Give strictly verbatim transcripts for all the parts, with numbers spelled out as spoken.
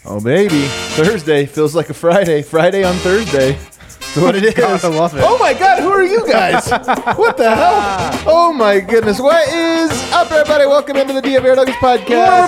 Oh, baby. Thursday feels like a Friday. Friday on Thursday. That's what it is. God, I love it. Oh, my God. Who are you guys? What the hell? Oh, my goodness. What is up, everybody? Welcome into the D F Air Nuggets podcast.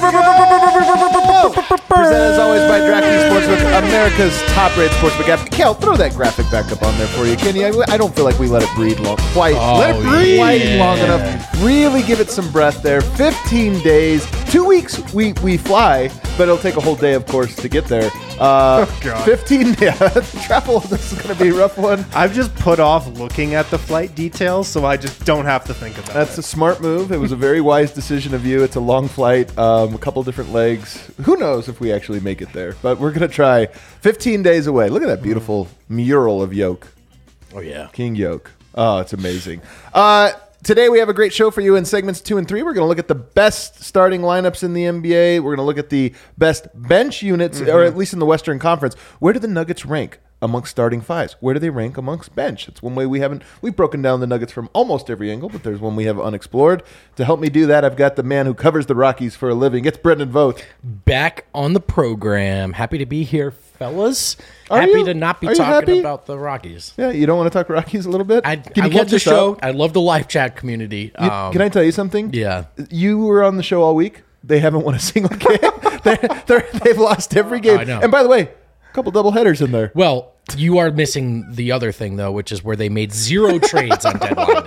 Presented, as always, by DraftKings Sportsbook, America's top-rated sportsbook app. Kel, throw that graphic back up on there for you, can you? I, I don't feel like we let it breathe long. Quite. Oh, let it breathe quite yeah. long enough. Really give it some breath there. fifteen days. Two weeks we, we fly, but it'll take a whole day, of course, to get there. Uh, Oh, God. fifteen, yeah. Travel, this is going to be a rough one. I've just put off looking at the flight details, so I just don't have to think about That's it. a smart move. It was a very wise decision of you. It's a long flight, um, a couple different legs. Who knows if we actually make it there, but we're going to try. fifteen days away. Look at that beautiful mural of Yoke. Oh, yeah. King Yoke. Oh, it's amazing. Uh, today we have a great show for you in segments two and three. We're going to look at the best starting lineups in the N B A. We're going to look at the best bench units, Mm-hmm. or at least in the Western Conference. Where do the Nuggets rank amongst starting fives? Where do they rank amongst bench? It's one way we haven't. We've broken down the Nuggets from almost every angle, but there's one we have unexplored. To help me do that, I've got the man who covers the Rockies for a living. It's Brendan Vogt. Back on the program. Happy to be here, fellas. Are happy you? to not be Are you talking happy? about the Rockies. Yeah, you don't want to talk Rockies a little bit? I, Can I you love catch the us show. up? I love the live chat community. You- Um, Can I tell you something? Yeah. You were on the show all week. They haven't won a single game. they're, they're, they've lost every game. I know. And by the way, a couple double headers in there. Well, you are missing the other thing, though, which is where they made zero trades on deadline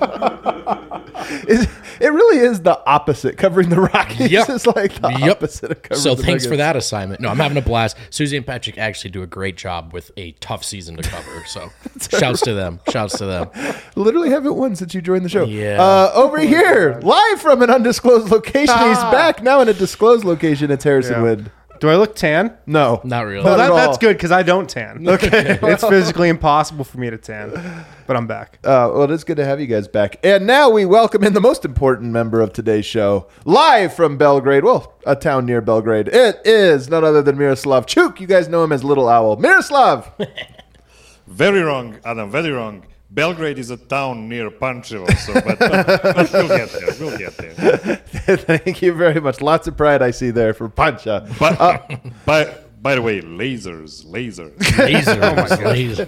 day. Is- It really is the opposite. Covering the Rockies Yep. is like the Yep. opposite of covering So the thanks for Nuggets. that assignment. No, I'm having a blast. Susie and Patrick actually do a great job with a tough season to cover. So shouts to them. Shouts to them. Literally haven't won since you joined the show. Yeah. Uh, over here, live from an undisclosed location. He's back now in a disclosed location. It's Harrison Yeah. Wind. Do I look tan? No. Not really. Well, Not that, at all. that's good because I don't tan. Okay. It's physically impossible for me to tan, but I'm back. Uh, well, it's good to have you guys back. And now we welcome in the most important member of today's show, live from Belgrade, well, a town near Belgrade. It is none other than Miroslav Chuk. You guys know him as Little Owl. Miroslav! Very wrong, Adam. Very wrong. Belgrade is a town near Pančevo, so but, but, but we'll get there. We'll get there. Thank you very much. Lots of pride I see there for Pancha. But by by the way, lasers, lasers. Laser. laser.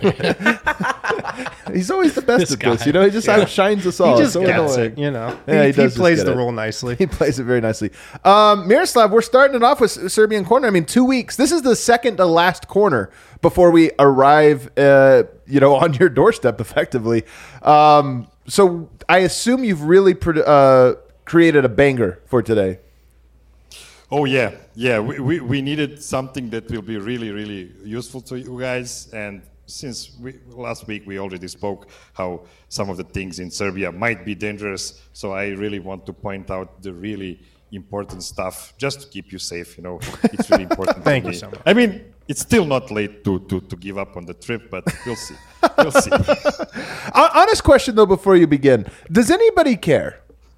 He's always the best This at this. guy. You know, he just Yeah. outshines us He all. just It's so gets annoying. it, you know. Yeah, he he, does just plays get the it. role nicely. He plays it very nicely. Um, Miroslav, we're starting it off with Serbian corner. I mean, two weeks. This is the second to last corner before we arrive, uh, you know, on your doorstep, effectively. Um, so I assume you've really pro- uh, created a banger for today. Oh yeah, yeah. We, we we needed something that will be really really useful to you guys. And since we, last week we already spoke how some of the things in Serbia might be dangerous, so I really want to point out the really important stuff just to keep you safe. You know, it's really important. Thank to you me. so much. I mean, it's still not late to, to, to give up on the trip, but we'll see. We'll see. Hon- Honest question, though, before you begin. Does anybody care?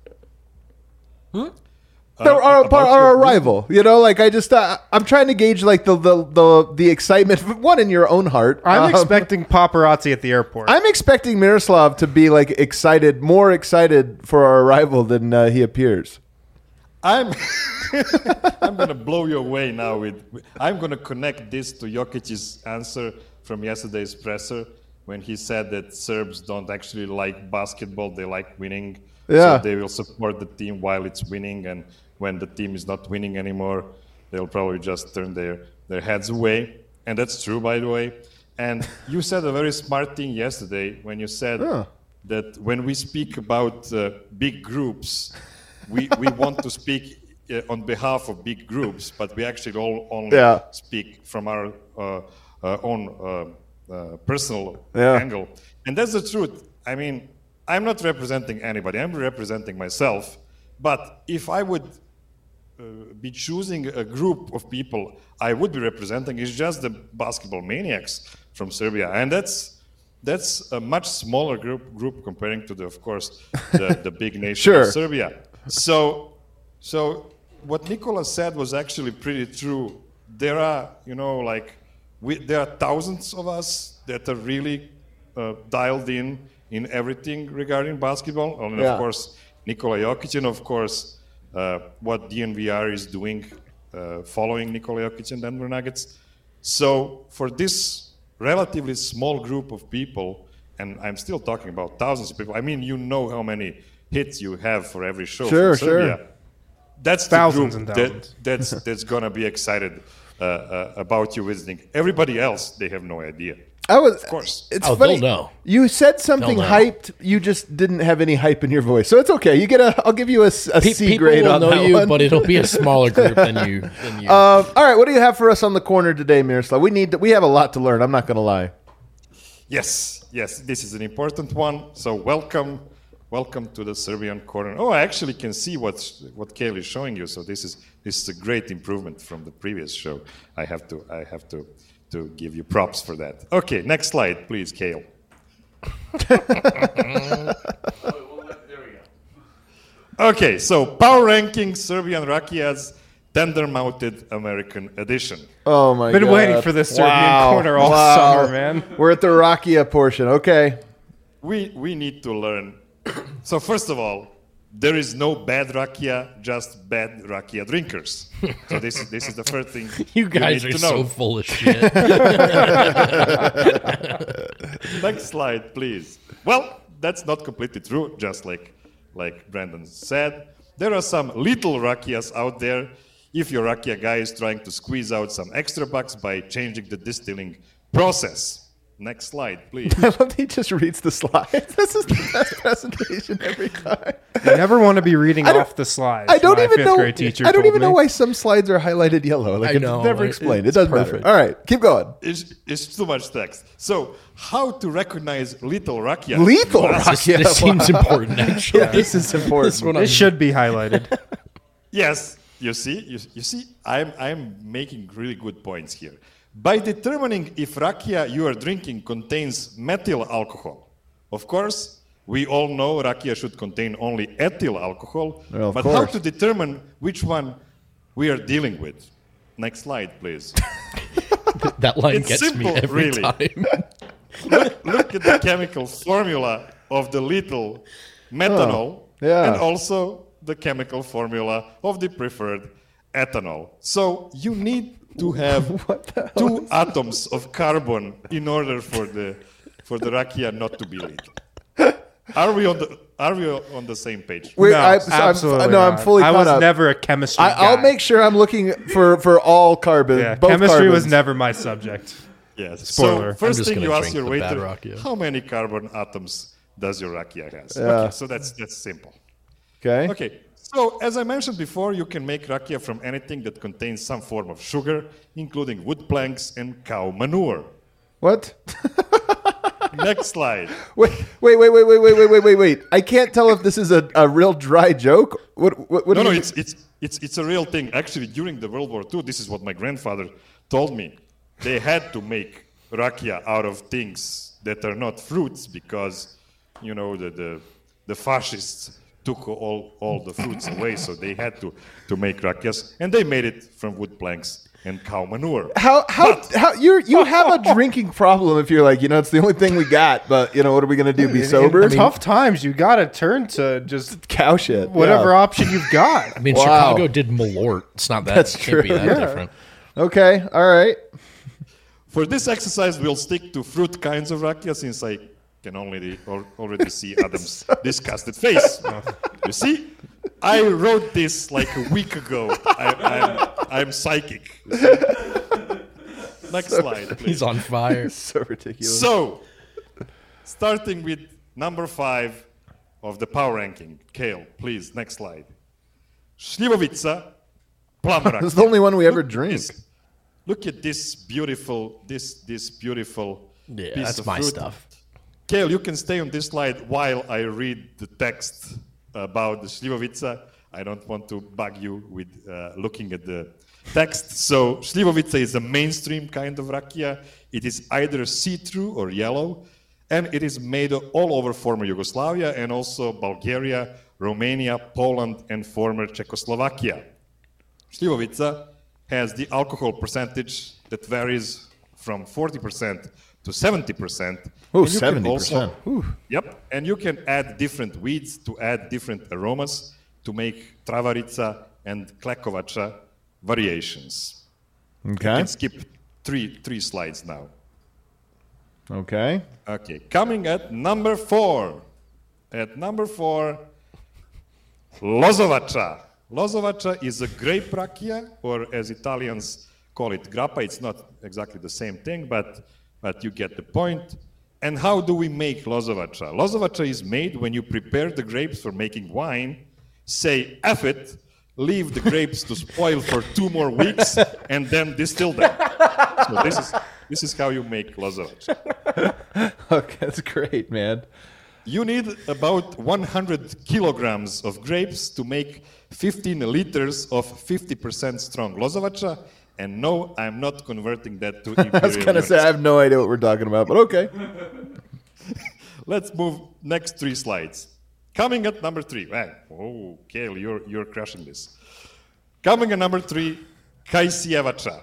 The, Uh, our, about our your- arrival, you know, like I just, uh, I'm trying to gauge like the, the, the, the excitement, one in your own heart. I'm Um, expecting paparazzi at the airport. I'm expecting Miroslav to be like excited, more excited for our arrival than uh, he appears. I'm I'm gonna blow you away now with I'm gonna connect this to Jokic's answer from yesterday's presser when he said that Serbs don't actually like basketball, they like winning. Yeah. So they will support the team while it's winning, and when the team is not winning anymore, they'll probably just turn their, their heads away. And that's true, by the way. And you said a very smart thing yesterday when you said Yeah. that when we speak about uh, big groups, we, we want to speak uh, on behalf of big groups, but we actually all only Yeah. speak from our uh, uh, own uh, uh, personal Yeah. angle. And that's the truth. I mean, I'm not representing anybody. I'm representing myself. But if I would uh, be choosing a group of people I would be representing, is just the basketball maniacs from Serbia. And that's that's a much smaller group group comparing to the, of course, the, the big nation Sure. of Serbia. So, so what Nikola said was actually pretty true. There are, you know, like, we, there are thousands of us that are really uh, dialed in in everything regarding basketball. And Yeah. of course, Nikola Jokic, and of course, uh, what D N V R is doing uh, following Nikola Jokic and Denver Nuggets. So for this relatively small group of people, and I'm still talking about thousands of people. I mean, you know how many hits you have for every show. Sure, from Serbia. sure. That's Thousands the group and thousands. that that's that's gonna be excited uh, uh, about you visiting. Everybody else, they have no idea. I was, Of course. It's Oh, funny. they'll know. You said something They'll know. hyped. You just didn't have any hype in your voice, so it's okay. You get a. I'll give you a, s- a Pe- C people grade will on know that you, one. but it'll be a smaller group than you. Than you. Um, all right, what do you have for us on the corner today, Miroslav? We need. To, we have a lot to learn. I'm not going to lie. Yes, yes, this is an important one. So welcome, welcome to the Serbian corner. Oh, I actually can see what's what Kale is showing you. So this is this is a great improvement from the previous show. I have to I have to to give you props for that. Okay, next slide, please, Kale. Okay, so power ranking Serbian Rakia's tender-mounted American edition. Oh my god! Been waiting for this Serbian Wow. corner all Wow. summer, man. We're at the Rakia portion. Okay. We we need to learn. So first of all, there is no bad rakia, just bad rakia drinkers. So this is this is the first thing you guys need are to know. so full of shit. Next slide, please. Well, that's not completely true. Just like like Brandon said, there are some little rakias out there. If your rakia guy is trying to squeeze out some extra bucks by changing the distilling process. Next slide, please. I love that he just reads the slides. This is the best presentation every time. You never want to be reading I don't- off the slides. I don't my even fifth know. grade teacher I don't told even me. know why some slides are highlighted yellow. Like I it's know, never it- explained. It it's doesn't perfect. matter. All right, keep going. It's, it's too much text. So, how to recognize little rakia? Lethal Well, this Rakia. this seems important, actually. Yeah, this is important. This one It should be highlighted. Yes, you see, you, you see, I'm I'm making really good points here. By determining if rakia you are drinking contains methyl alcohol, of course, we all know rakia should contain only ethyl alcohol. Well, of but how course. to determine which one we are dealing with? Next slide, please. That line It's gets simple, me every really. time. look, look at the chemical formula of the little methanol Oh, yeah. and also the chemical formula of the preferred ethanol. So you need to have two atoms of carbon in order for the for the rakia not to be lethal. Are we on the Are we on the same page? Wait, no, I, so I'm- absolutely no, I'm not. fully I caught was up. never a chemistry I, I'll guy. make sure I'm looking for for all carbon. Yeah, both chemistry was carbons. never my subject. Yes. Spoiler. So first I'm just thing you gonna ask drink your the bad waiter, rakia. how many carbon atoms does your rakia has? Yeah. Okay, so that's that's simple. Okay. Okay, so as I mentioned before, you can make rakia from anything that contains some form of sugar, including wood planks and cow manure. What? Next slide. Wait, wait, wait, wait, wait, wait, wait, wait, wait, wait. I can't tell if this is a, a real dry joke. What? What? what No, do no, you- it's, it's, it's, it's a real thing. Actually, during the World War Two, this is what my grandfather told me. They had to make rakia out of things that are not fruits because, you know, the, the, the fascists took all, all the fruits away, so they had to, to make rakias, and they made it from wood planks and cow manure. How how how you you have a drinking problem if you're like, you know, it's the only thing we got, but you know, what are we gonna do? Be In- sober? In tough times, you got to turn to just Cow shit. whatever Yeah. option you've got. I mean, Wow. Chicago did Malort. It's not that. That's it can't be true. that Yeah. different. Okay. All right. For this exercise, we'll stick to fruit kinds of rakia since I can only al- already see Adam's disgusted face. You see, I wrote this like a week ago. I, I'm, I'm psychic. You see? Next slide, please. He's on fire. So ridiculous. So, starting with number five of the power ranking. Kale, please, next slide. Šljivovica, plum This is rakia. the only one we ever Look at drink. this. Look at this beautiful, this this beautiful Yeah, piece that's of my fruit. stuff. Kale, you can stay on this slide while I read the text about the Šljivovica. I don't want to bug you with uh, looking at the text. So, Šljivovica is a mainstream kind of rakia. It is either see-through or yellow, and it is made all over former Yugoslavia and also Bulgaria, Romania, Poland, and former Czechoslovakia. Šljivovica has the alcohol percentage that varies from forty percent to seventy percent. Oh, And you can also- seventy percent. Yep, and you can add different weeds to add different aromas to make travarica and klekovača variations. You Okay. can skip three three slides now. Okay. Okay, coming at number four. At number four, Lozovača. Lozovača is a grape rakia, or as Italians call it, grappa. It's not exactly the same thing, but, but you get the point. And how do we make Lozovača? Lozovača is made when you prepare the grapes for making wine, say F it, leave the grapes to spoil for two more weeks, and then distill them. So this is, this is how you make Lozovača. Okay, that's great, man. You need about one hundred kilograms of grapes to make fifteen liters of fifty percent strong Lozovača. And no, I'm not converting that to imperial I was going to say, I units. have no idea what we're talking about, but okay. Let's move next three slides. Coming at number three. Wow. Oh, Kale, you're, you're crushing this. Coming at number three, Kajsjevača.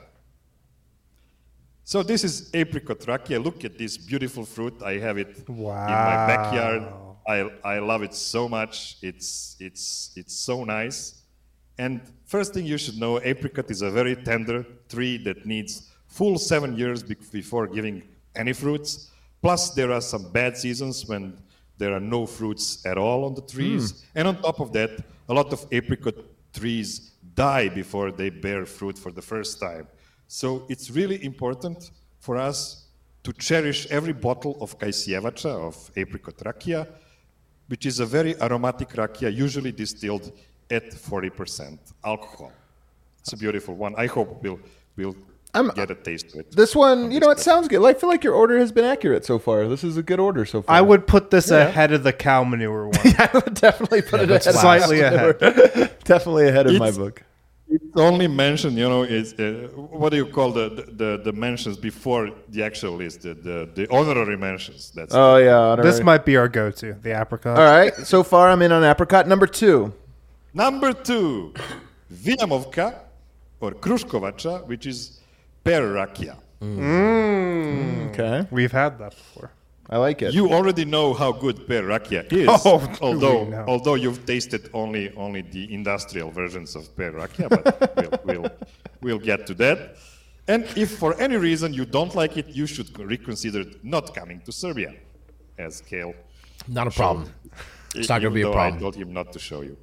So this is apricot rakia. Look at this beautiful fruit. I have it Wow. in my backyard. I, I love it so much. It's, it's, it's so nice. And first thing you should know, apricot is a very tender tree that needs full seven years be- before giving any fruits. Plus, there are some bad seasons when there are no fruits at all on the trees. And on top of that, a lot of apricot trees die before they bear fruit for the first time. So it's really important for us to cherish every bottle of Kajsjevača, of apricot rakia, which is a very aromatic rakia, usually distilled at forty percent alcohol. It's a beautiful one. I hope we'll, we'll I'm- get a taste of it. This one, on you this know, it cup. sounds good. I feel like your order has been accurate so far. This is a good order so far. I would put this ahead of the cow manure one. I would definitely put it that's ahead. Slightly of ahead. Definitely ahead of my It's- book. It's only mentioned, you know, is uh, what do you call the, the, the mentions before the actual list, the, the, the honorary mentions. That's Oh, yeah. honorary. This might be our go-to, the apricot. All right. So far, I'm in on apricot. Number two. Number two, Vinamovka or Kruškovača, which is pear rakia. Okay. We've had that before. I like it. You already know how good pear rakia is, Oh, do although we know. although you've tasted only only the industrial versions of pear rakia, but we'll, we'll we'll get to that. And if for any reason you don't like it, you should reconsider not coming to Serbia, as Kale. Not a problem. It's not going to be a Even though problem. I told him not to show you.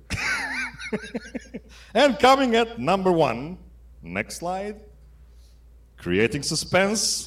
And coming at number one, next slide, creating suspense.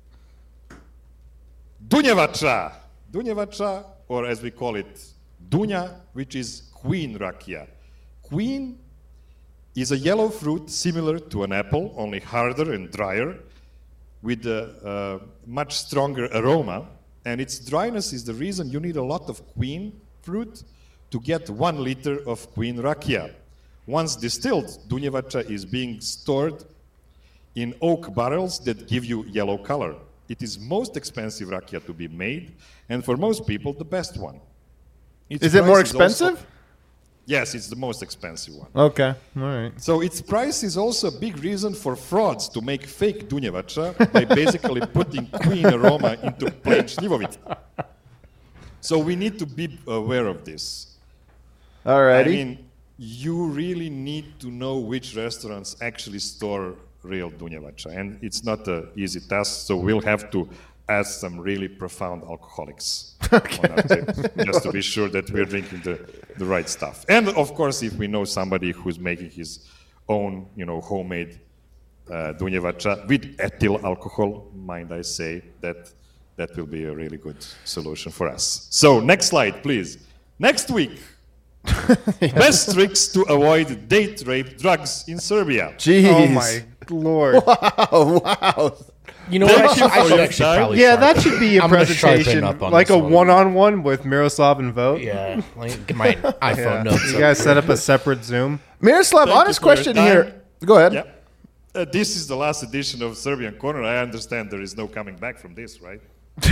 Dunjevača. Dunjevača, or as we call it, Dunja, which is queen rakia. Queen is a yellow fruit similar to an apple, only harder and drier, with a, a much stronger aroma. And its dryness is the reason you need a lot of queen fruit to get one liter of queen rakia. Once distilled, Dunjevača is being stored in oak barrels that give you yellow color. It is most expensive rakia to be made, and for most people, the best one. Its Is it more price also- expensive? yes, it's the most expensive one. Okay. All right. So its price is also a big reason for frauds to make fake Dunjevača by basically putting queen aroma into plain Šljivovica. So we need to be aware of this. All I righty. mean, you really need to know which restaurants actually store real Dunjevača, and it's not an easy task, so we'll have to ask some really profound alcoholics on our table, just to be sure that we're drinking the, the right stuff. And of course, if we know somebody who's making his own, you know, homemade uh, Dunjevača with ethyl alcohol, mind I say, that that will be a really good solution for us. So next slide, please. Next week, best tricks to avoid date rape drugs in Serbia. Jeez. Oh my lord. Oh, wow. You know Thank what? I you should, I for should your actually time. probably Yeah, sharpen- that should be a I'm gonna sharpen presentation, up on like this a one. one-on-one with Miroslav and Vote. Yeah, like, get my iPhone Yeah. notes. You up. guys set up a separate Zoom. Miroslav, Thank you honest for your question time. here. Go ahead. Yeah. Uh, this is the last edition of Serbian Corner. I understand there is no coming back from this, right?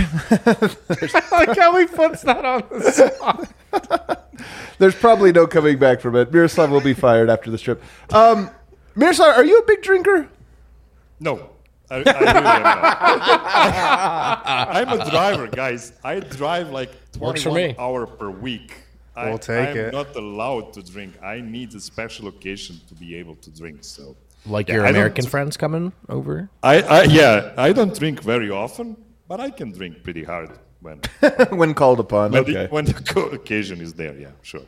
Like how he puts that on the spot. There's probably no coming back from it. Miroslav will be fired after this trip. Um, Miroslav, are you a big drinker? No. I, I really am not. I'm a driver, guys. I drive like Works for twenty-one me. hour per week. I, We'll take I'm it. not allowed to drink. I need a special occasion to be able to drink. So, Like Yeah, your I don't- American friends coming over? I, I yeah, I don't drink very often, but I can drink pretty hard when when called upon. when, Okay. the, when the co- occasion is there. Yeah, sure.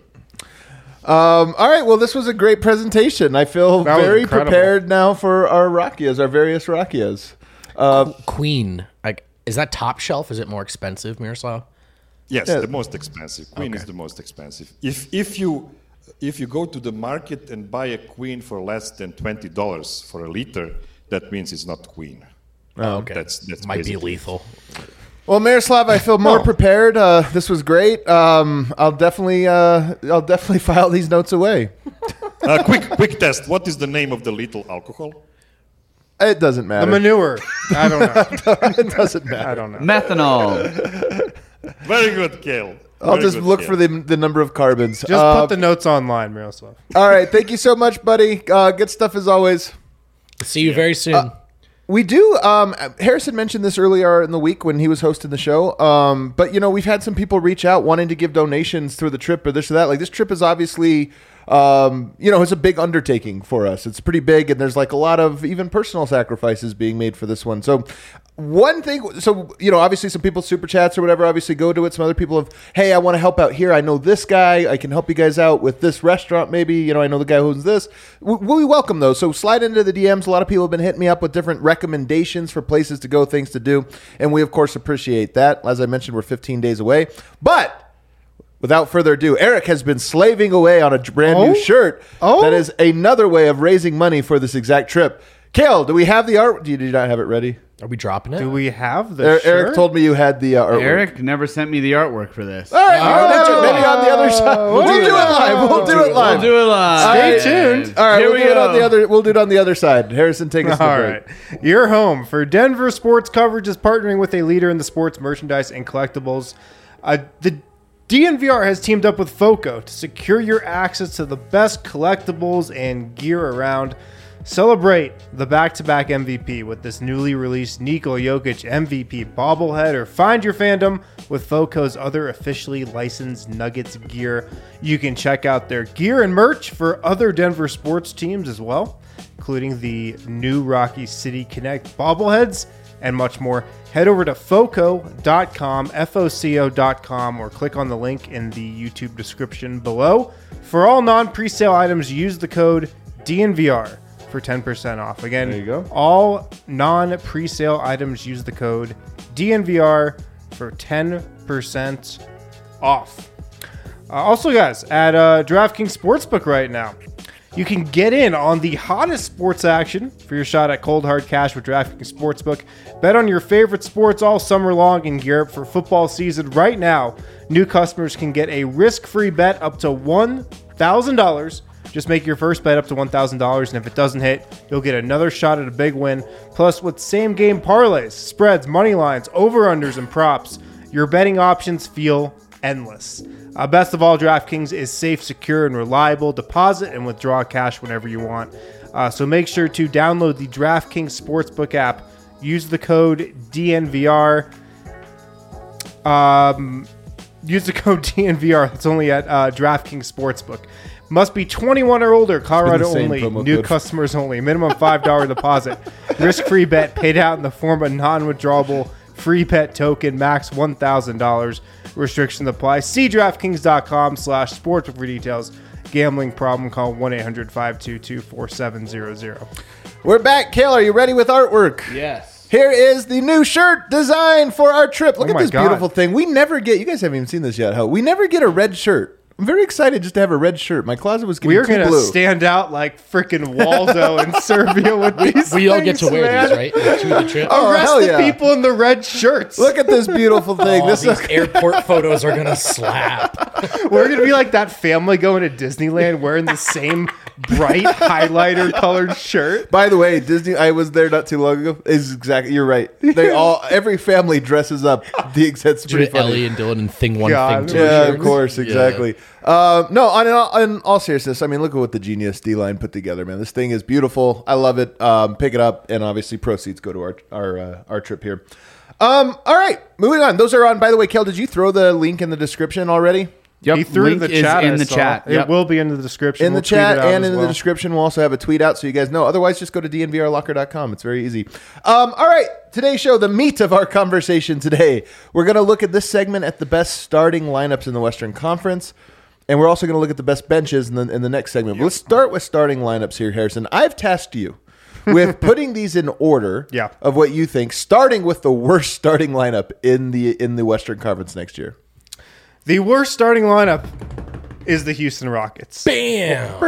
Um, all right. Well, this was a great presentation. I feel That was very incredible. prepared now for our rakias, our various rakias. Uh, Queen. Like, is that top shelf? Is it more expensive, Miroslav? Yes, Yeah. the most expensive. Queen is the most expensive. If if you if you go to the market and buy a queen for less than twenty dollars for a liter, that means it's not queen. Oh, okay. That's that's Might be basically- lethal. well, Miroslav, I feel more Oh. prepared. Uh, this was great. Um, I'll definitely, uh, I'll definitely file these notes away. Uh, quick quick test. What is the name of the lethal alcohol? It doesn't The matter. manure. I don't know. It doesn't matter. I don't know. Methanol. Very good, Kale. I'll Very just good, look Kale. for the the number of carbons. Just Uh, put the notes online, Miroslav. all right. Thank you so much, buddy. Uh, good stuff as always. See you very soon. We do. Um, Harrison mentioned this earlier in the week when he was hosting the show. Um, but you know, we've had some people reach out wanting to give donations through the trip or this or that. Like this trip is obviously, um, you know, it's a big undertaking for us. It's pretty big, and there's like a lot of even personal sacrifices being made for this one. So. One thing, so, you know, obviously some people super chats or whatever, obviously go to it. Some other people have, hey, I want to help out here. I know this guy. I can help you guys out with this restaurant maybe. You know, I know the guy who owns this. We, we welcome those. So slide into the D Ms. A lot of people have been hitting me up with different recommendations for places to go, things to do. And we, of course, appreciate that. As I mentioned, we're fifteen days away. But without further ado, Eric has been slaving away on a brand Oh? new shirt. Oh? That is another way of raising money for this exact trip. Kale, do we have the art? Do you, do you not have it ready? Are we dropping it? Do we have the Er- shirt? Eric told me you had the uh, artwork. Eric never sent me the artwork for this. All right, oh, maybe on the other side. We'll do it live. We'll do it live. We'll do it live. Stay tuned. All right, Here we'll we do it on go. the other. We'll do it on the other side. Harrison, take us to the All break. right. Your home for Denver sports coverage is partnering with a leader in the sports merchandise and collectibles. Uh, the D N V R has teamed up with FOCO to secure your access to the best collectibles and gear around. Celebrate the back-to-back M V P with this newly released Nikola Jokic M V P bobblehead, or find your fandom with FOCO's other officially licensed Nuggets gear. You can check out their gear and merch for other Denver sports teams as well, including the new Rocky City Connect bobbleheads and much more. Head over to foco dot com, F O C O dot com, or click on the link in the YouTube description below. For all non-presale items, use the code D N V R for ten percent off. Again, There you go. all non-presale items, use the code D N V R for ten percent off. Uh, also, guys, at uh, DraftKings Sportsbook right now, you can get in on the hottest sports action for your shot at cold hard cash with DraftKings Sportsbook. Bet on your favorite sports all summer long and gear up for football season. Right now, new customers can get a risk-free bet up to one thousand dollars. Just make your first bet up to one thousand dollars, and if it doesn't hit, you'll get another shot at a big win. Plus, with same-game parlays, spreads, money lines, over-unders, and props, your betting options feel endless. Uh, best of all, DraftKings is safe, secure, and reliable. Deposit and withdraw cash whenever you want. Uh, so make sure to download the DraftKings Sportsbook app. Use the code D N V R. Um, use the code D N V R. That's only at uh, DraftKings Sportsbook. Must be twenty-one or older. Colorado It's been the only. same promo New code. customers only. Minimum five dollars deposit. Risk-free bet paid out in the form of non-withdrawable free bet token. Max one thousand dollars. Restrictions apply. See DraftKings.com slash sportsbook for details. Gambling problem, call one eight hundred five two two four seven zero zero. We're back. Kale, are you ready with artwork? Yes. Here is the new shirt design for our trip. Look Oh at my this God. beautiful thing. We never get, you guys haven't even seen this yet, huh? We never get a red shirt. I'm very excited just to have a red shirt. My closet was getting We are too going to blue. stand out like freaking Waldo in Serbia with these We all get to things, wear man. these, right? To the trip. Oh, Arrest hell the yeah. people in the red shirts. Look at this beautiful thing. Oh, this these is airport photos are gonna slap. We're going to be like that family going to Disneyland wearing the same bright highlighter colored shirt. By the way, Disney. I was there not too long ago. Is exactly. You're right. They all. Every family dresses up. The exact. Pretty funny. Ellie and Dylan and Thing One, God. Thing Two. Yeah, shirts. of course, Yeah. exactly. Uh, no, on in, all, in all seriousness, I mean, look at what the genius D line put together, man. This thing is beautiful. I love it. Um, pick it up, and obviously, proceeds go to our our uh, our trip here. Um, all right, moving on. Those are on. By the way, Kel, did you throw the link in the description already? Yep. He threw link the is chat in I the saw. chat. It Yep. will be in the description. in We'll the tweet chat it out and as in well. the description. We'll also have a tweet out so you guys know. Otherwise, just go to d n v r locker dot com. It's very easy. Um, all right, today's show, the meat of our conversation today. We're going to look at this segment at the best starting lineups in the Western Conference, and we're also going to look at the best benches in the, in the next segment. But let's start with starting lineups here, Harrison. I've tasked you with putting these in order Yeah. of what you think, starting with the worst starting lineup in the in the Western Conference next year. The worst starting lineup is the Houston Rockets. Bam.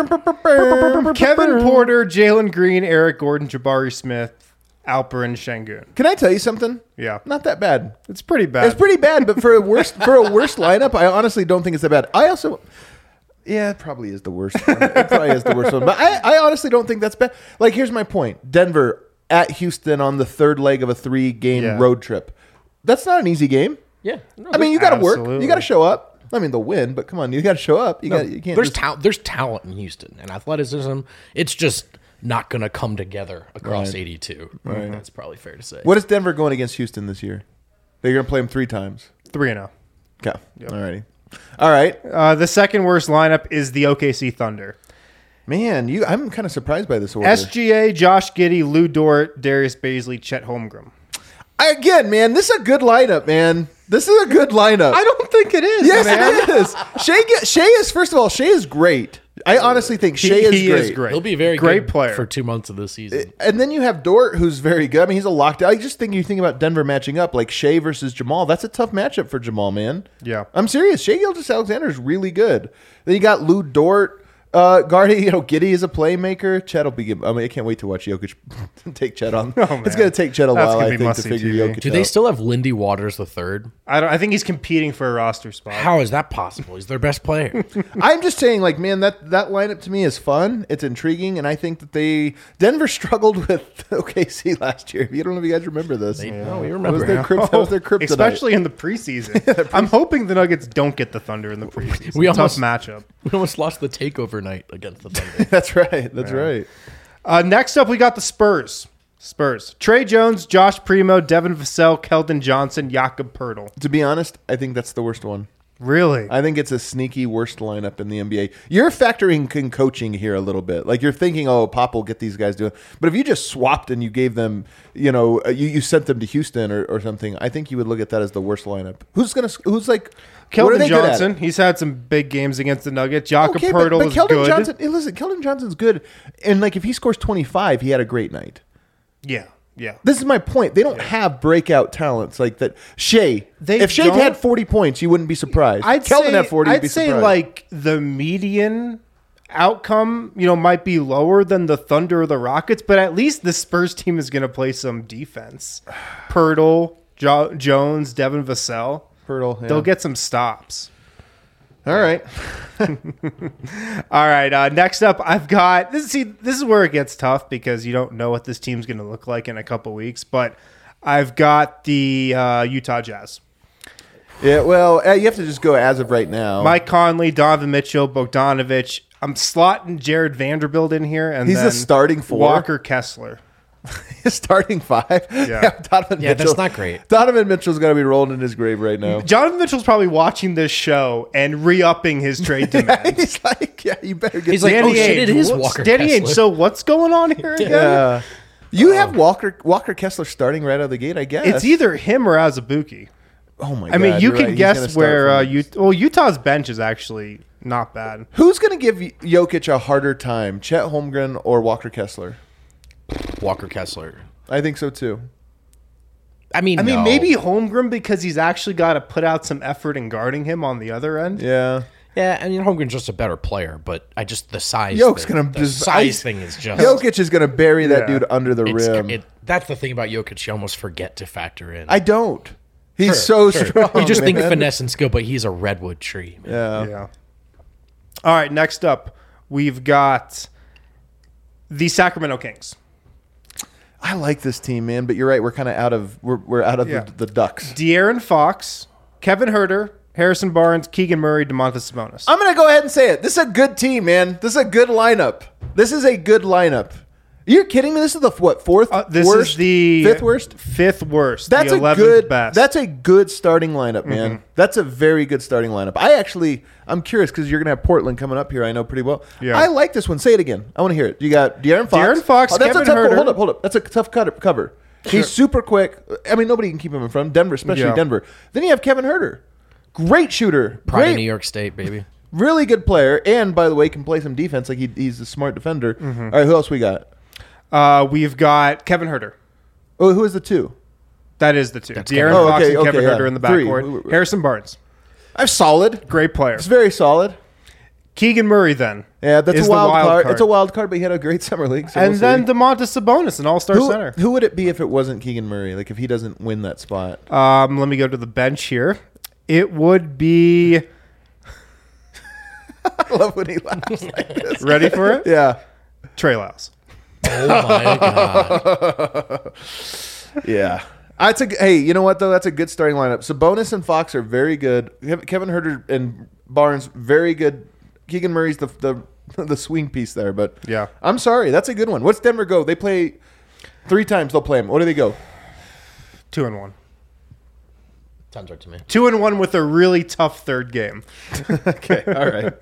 Kevin Porter, Jalen Green, Eric Gordon, Jabari Smith, Alperen Şengün. Can I tell you something? Yeah. Not that bad. It's pretty bad. It's pretty bad, but for a worst for a worst lineup, I honestly don't think it's that bad. I also, yeah, it probably is the worst. One. It probably is the worst one, but I, I honestly don't think that's bad. Like, here's my point: Denver at Houston on the third leg of a three-game Yeah. road trip. That's not an easy game. Yeah. No, I mean, you got to work. Absolutely. You got to show up. I mean, they'll win, but come on, you got to show up. You got you can't. there's just- ta- there's talent in Houston and athleticism. It's just not going to come together across Right. eighty-two. Right. That's probably fair to say. What is Denver going against Houston this year? They're going to play them three times. three and oh. Okay. Alrighty. All right. Uh, the second worst lineup is the O K C Thunder. Man, you. I'm kind of surprised by this order. S G A, Josh Giddey, Lou Dort, Darius Baisley, Chet Holmgren. Again, man, this is a good lineup, man. This is a good lineup. I don't think it is, Yes, man. it is. Shea, get, Shea is, first of all, Shea is great. I honestly think He, Shea is, he great. is great. He'll be very great good player. for two months of the season. And then you have Dort, who's very good. I mean, he's a lockdown. I just think you think about Denver matching up, like Shea versus Jamal. That's a tough matchup for Jamal, man. Yeah. I'm serious. Shea Gilgeous-Alexander is really good. Then you got Lou Dort. Uh, guarding, you know, Giddey is a playmaker. Chet will be. I mean, I can't wait to watch Jokic take Chet on. Oh, It's man. going to take Chet a That's while, gonna I be think, to must-see figure T V. Jokic Do they out. still have Lindy Waters the third? I don't. I think he's competing for a roster spot. How is that possible? He's their best player. I'm just saying, like, man, that that lineup to me is fun. It's intriguing, and I think that they Denver struggled with O K C last year. You don't know if you guys remember this. They, no, we That was remember. their crypt, that was their kryptonite. Especially in the preseason. I'm hoping the Nuggets don't get the Thunder in the preseason. We Tough almost- matchup. We almost lost the takeover night against the Thunder. That's right. That's right. Uh, next up, we got the Spurs. Spurs. Trey Jones, Josh Primo, Devin Vassell, Keldon Johnson, Jakob Pertl. To be honest, I think that's the worst one. Really? I think it's a sneaky worst lineup in the N B A. You're factoring in coaching here a little bit. Like, you're thinking, oh, Pop will get these guys doing. But if you just swapped and you gave them, you know, uh, you, you sent them to Houston or, or something, I think you would look at that as the worst lineup. Who's gonna? Who's like? what are Keldon they good at? Johnson. He's had some big games against the Nuggets. Jakob Okay, but, Pertl but is Keldon good. Johnson. Hey, listen, Keldon Johnson's good, and like if he scores twenty-five, he had a great night. Yeah. Yeah. This is my point. They don't have breakout talents like that. Shea, They if Shea don't- had forty points, you wouldn't be surprised. I'd Keldon say, had forty. you'd I'd be say surprised. like the median outcome, you know, might be lower than the Thunder or the Rockets, but at least the Spurs team is going to play some defense. Pirtle, jo- Jones, Devin Vassell, Pirtle. Yeah. they'll get some stops. All right. All right. Uh, next up, I've got this. See, this is where it gets tough because you don't know what this team's going to look like in a couple weeks. But I've got the uh, Utah Jazz. Yeah. Well, uh, you have to just go as of right now. Mike Conley, Donovan Mitchell, Bogdanovich. I'm slotting Jared Vanderbilt in here, and He's then the starting four? Walker Kessler. starting five. Yeah. Donovan Yeah, Mitchell. that's not great. Donovan Mitchell's going to be rolling in his grave right now. Jonathan Mitchell's probably watching this show and re-upping his trade demand. He's like, yeah, you better get. He's like, Danny oh shit, it Ainge, is what's- Walker Danny Ainge, Kessler. so what's going on here again? yeah. You have Walker Walker Kessler starting right out of the gate, I guess. It's either him or Azubuike. Oh my god! I mean, you you're can right. He's gonna guess start where uh, from- you. Well, Utah's bench is actually not bad. Who's going to give Jokic a harder time, Chet Holmgren or Walker Kessler? Walker Kessler. I think so too. I mean, I mean, no. maybe Holmgren because he's actually got to put out some effort in guarding him on the other end. Yeah. Yeah, I mean, Holmgren's just a better player, but I just the size. Jokic's thing, gonna the just- size I- thing is just. Jokic is going to bury that Yeah. dude under the it's, rim. it, that's the thing about Jokic. You almost forget to factor in. I don't. He's so Sure, sure. strong. You just think man. finesse and skill, but he's a redwood tree. Man. Yeah. Yeah. All right. Next up, we've got the Sacramento Kings. I like this team, man, but you're right. We're kind of out of we're, we're out of Yeah. the, the Ducks. De'Aaron Fox, Kevin Herter, Harrison Barnes, Keegan Murray, DeMontis Sabonis. I'm going to go ahead and say it. This is a good team, man. This is a good lineup. This is a good lineup. You're kidding me? This is the what fourth Uh, this worst, is the fifth worst. Fifth worst. That's the a eleventh good. best. That's a good starting lineup, man. Mm-hmm. That's a very good starting lineup. I actually, I'm curious because you're gonna have Portland coming up here. I know pretty well. Yeah. I like this one. Say it again. I want to hear it. You got De'Aaron Fox. De'Aaron Fox, Oh, that's Kevin a tough. Huerter. Hold up, hold up. That's a tough cut, cover. He's super quick. I mean, nobody can keep him in front. Denver, especially Yeah. Denver. Then you have Kevin Herter. Great shooter. Pride Great, of New York State, baby. really good player. And by the way, can play some defense. Like he, he's a smart defender. Mm-hmm. All right, who else we got? Uh, we've got Kevin Herter. Oh, who is the two? That is the two. That's De'Aaron Kevin- Oh, Fox okay, and Kevin okay, yeah. Herter in the Three. backcourt. Harrison Barnes. I'm solid. Great player. It's very solid. Keegan Murray then. Yeah, that's is a the wild, wild card. card. It's a wild card, but he had a great summer league. So And we'll then see. DeMontis Sabonis, an all-star who, center. who would it be if it wasn't Keegan Murray? Like if he doesn't win that spot? Um, let me go to the bench here. It would be I love when he laughs like this. ready for it. Yeah, Trey Lyles. Oh my god. yeah. That's a g- hey. You know what though? That's a good starting lineup. Sabonis and Fox are very good. Kev- Kevin Herter and Barnes very good. Keegan Murray's the the the swing piece there, but Yeah. I'm sorry. That's a good one. What's Denver go? They play three times. They'll play them. What do they go? Two and one. Sounds right to me. Two and one with a really tough third game. Okay, all right.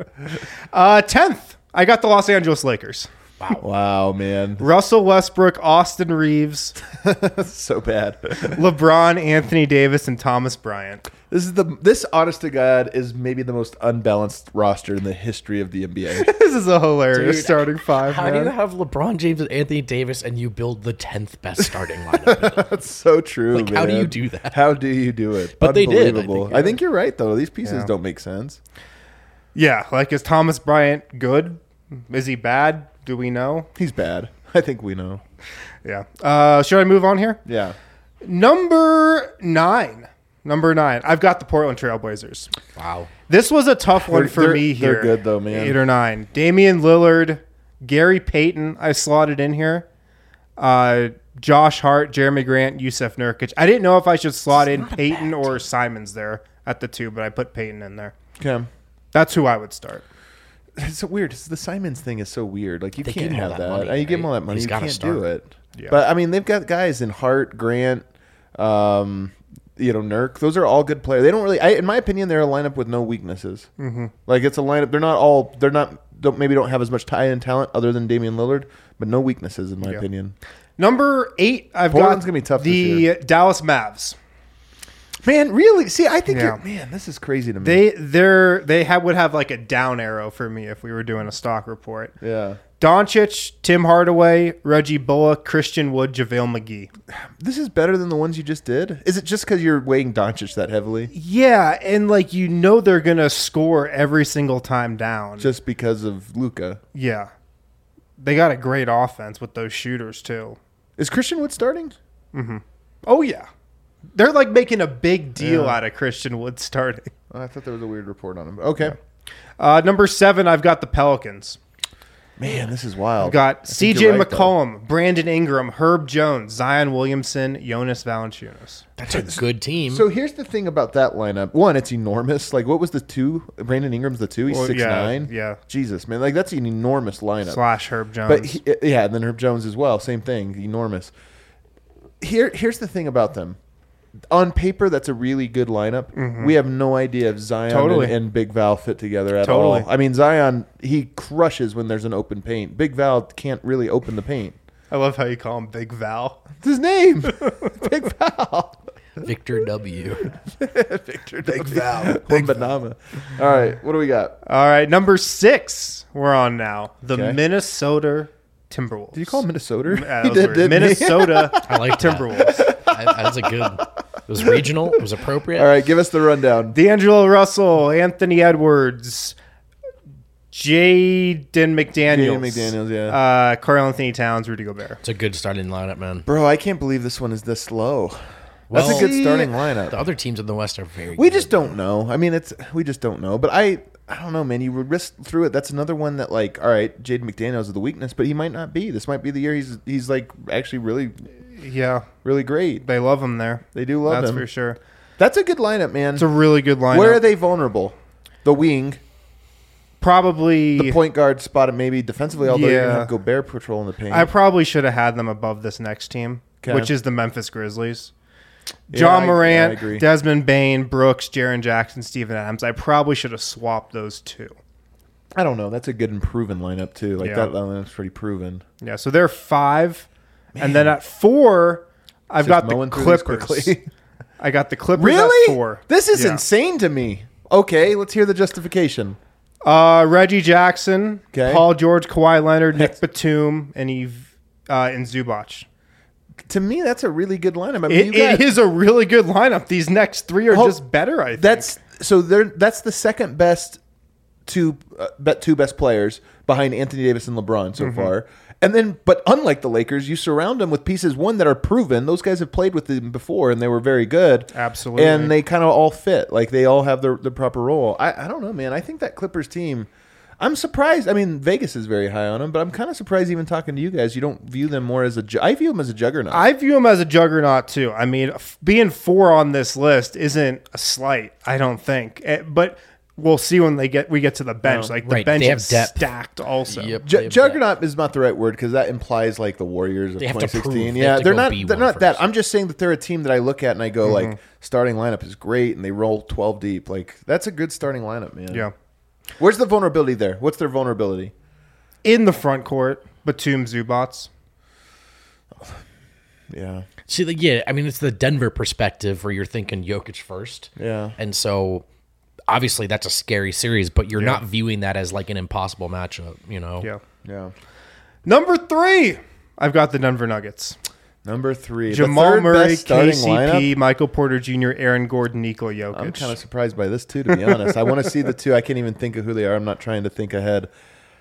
Uh, tenth. I got the Los Angeles Lakers. Wow, man, Russell Westbrook, Austin Reeves, that's so bad. LeBron, Anthony Davis, and Thomas Bryant. This is the this honest to God is maybe the most unbalanced roster in the history of the N B A. This is a hilarious Dude, starting five. How man. do you have LeBron James and Anthony Davis and you build the tenth best starting lineup? That's so true. Like, how do man. you do that? How do you do it? But they did, I Unbelievable. think, I think you're right though. These pieces Yeah. don't make sense. Yeah, like is Thomas Bryant good? Is he bad? Do we know? He's bad. I think we know. Yeah. Uh, should I move on here? Yeah. Number nine. Number nine. I've got the Portland Trailblazers. Wow. This was a tough one They're- for they're- me they're here. good, though, man. Eight or nine. Damian Lillard, Gary Payton. I slotted in here. Uh, Josh Hart, Jeremy Grant, Yusef Nurkic. I didn't know if I should slot in not a Payton bad or Simons there at the two, but I put Payton in there. Okay. That's who I would start. It's so weird. It's, the Simons thing is so weird. Like you They can't give him all have that that. money, Uh, you give him all right? that money, He's you gotta can't start. do it. Yeah. But I mean, they've got guys in Hart, Grant, um, you know, Nurk. Those are all good players. They don't really, I, in my opinion, they're a lineup with no weaknesses. Mm-hmm. Like it's a lineup. They're not all. They're not. Don't maybe don't have as much tie-in talent other than Damian Lillard, but no weaknesses in my Yeah. opinion. Number eight, I've Portland's got gonna be tough the this year. Dallas Mavs. Man, really? See, I think Yeah. you're, man, this is crazy to me. They they're they have, would have like a down arrow for me if we were doing a stock report. yeah. Doncic, Tim Hardaway, Reggie Bullock, Christian Wood, JaVale McGee. This is better than the ones you just did. Is it just because you're weighing Doncic that heavily? Yeah, and like you know they're gonna score every single time down. Just because of Luca? yeah, they got a great offense with those shooters too. Is Christian Wood starting? Oh yeah, they're like making a big deal Yeah. out of Christian Wood starting. Oh, I thought there was a weird report on him. Okay. Uh, number seven, I've got the Pelicans. Man, this is wild. I've got I C think J you're right, though. McCollum, Brandon Ingram, Herb Jones, Zion Williamson, Jonas Valanciunas. That's a good team. So here's the thing about that lineup. One, it's enormous. Like, what was the two? Brandon Ingram's the two. He's Well, six yeah, nine. yeah. Jesus, man, like that's an enormous lineup. Slash Herb Jones. But he, yeah, and then Herb Jones as well. Same thing, enormous. Here, here's the thing about them. On paper, that's a really good lineup. We have no idea if Zion Totally. and, and Big Val fit together at Totally. all. I mean, Zion, he crushes when there's an open paint. Big Val can't really open the paint. I love how you call him Big Val. It's his name, Big Val. Victor W. Victor Big Val. Big Banana. All right, what do we got? All right, number six, we're on now. The Okay. Minnesota Timberwolves. Did you call him Minnesota? Yeah, He that was weird. didn't he? Minnesota I like that. Timberwolves. I, that's a good. It was regional. It was appropriate. All right, give us the rundown. D'Angelo Russell, Anthony Edwards, Jaden McDaniels, Jaden McDaniels, yeah. uh, Karl Anthony Towns, Rudy Gobert. It's a good starting lineup, man. Bro, I can't believe this one is this low. That's Well, a good See, starting The lineup. other teams in the West are very. We good. just don't know. I mean, it's we just don't know. But I, I don't know, man. You would risk through it. That's another one that, like, all right, Jaden McDaniels is the weakness, but he might not be. This might be the year he's he's like actually really, Yeah, really great. they love him there. They do love That's him. for sure. That's a good lineup, man. It's a really good lineup. Where are they vulnerable? The wing. probably the point guard spot, maybe defensively. Although you're gonna Yeah. have Gobert patrolling the paint. I probably should have had them above this next team, 'Kay. which is the Memphis Grizzlies. Yeah, John I- Morant, yeah, I agree. Desmond Bain, Brooks, Jaren Jackson, Steven Adams. I probably should have swapped those two. I don't know. That's a good and proven lineup too. Like Yeah. that lineup's pretty proven. Yeah, so they're five, and then at four, I've Just got the mowing through these Clippers. quickly. I got the Clippers Really? at four. This is Yeah. insane to me. Okay, let's hear the justification. Uh, Reggie Jackson, 'Kay. Paul George, Kawhi Leonard, Nick Batum, and Eve uh, and Zubac. To me, that's a really good lineup. I mean, It, you got, it is a really good lineup. These next three are Oh, just better. I think that's so they're that's the second best two uh, bet two best players behind Anthony Davis and LeBron so far. And then, but unlike the Lakers, you surround them with pieces one that are proven. Those guys have played with them before, and they were very good. Absolutely. and they kind of all fit. Like they all have their the proper role. I, I don't know, man. I think that Clippers team. I'm surprised. I mean, Vegas is very high on them, but I'm kind of surprised. Even talking to you guys, you don't view them more as a. ju- I view them as a juggernaut. I view him as a juggernaut too. I mean, f- being four on this list isn't a slight. I don't think, Eh, but we'll see when they get we get to the bench. No. Like the Right, bench they have is depth. stacked. Also, Yep. Ju- They have juggernaut is not the right word because that implies like the Warriors of They have to twenty sixteen. prove. They Yeah, have to they're go not. be They're one not that. first. I'm just saying that they're a team that I look at and I go like, starting lineup is great, and they roll twelve deep. Like that's a good starting lineup, man. yeah. Where's the vulnerability there? What's their vulnerability? In the front court, Batum, Zubats. Yeah, See, like, yeah, I mean, it's the Denver perspective where you're thinking Jokic first. yeah. And so obviously that's a scary series, but you're not viewing that as like an impossible matchup, you know? Yeah. Yeah. Number three, I've got the Denver Nuggets. Number three, the Jamal third Murray, best starting K C P, lineup. Michael Porter Junior, Aaron Gordon, Nikola Jokic. I'm kind of surprised by this too, to be honest. I want to see the two. I can't even think of who they are. I'm not trying to think ahead.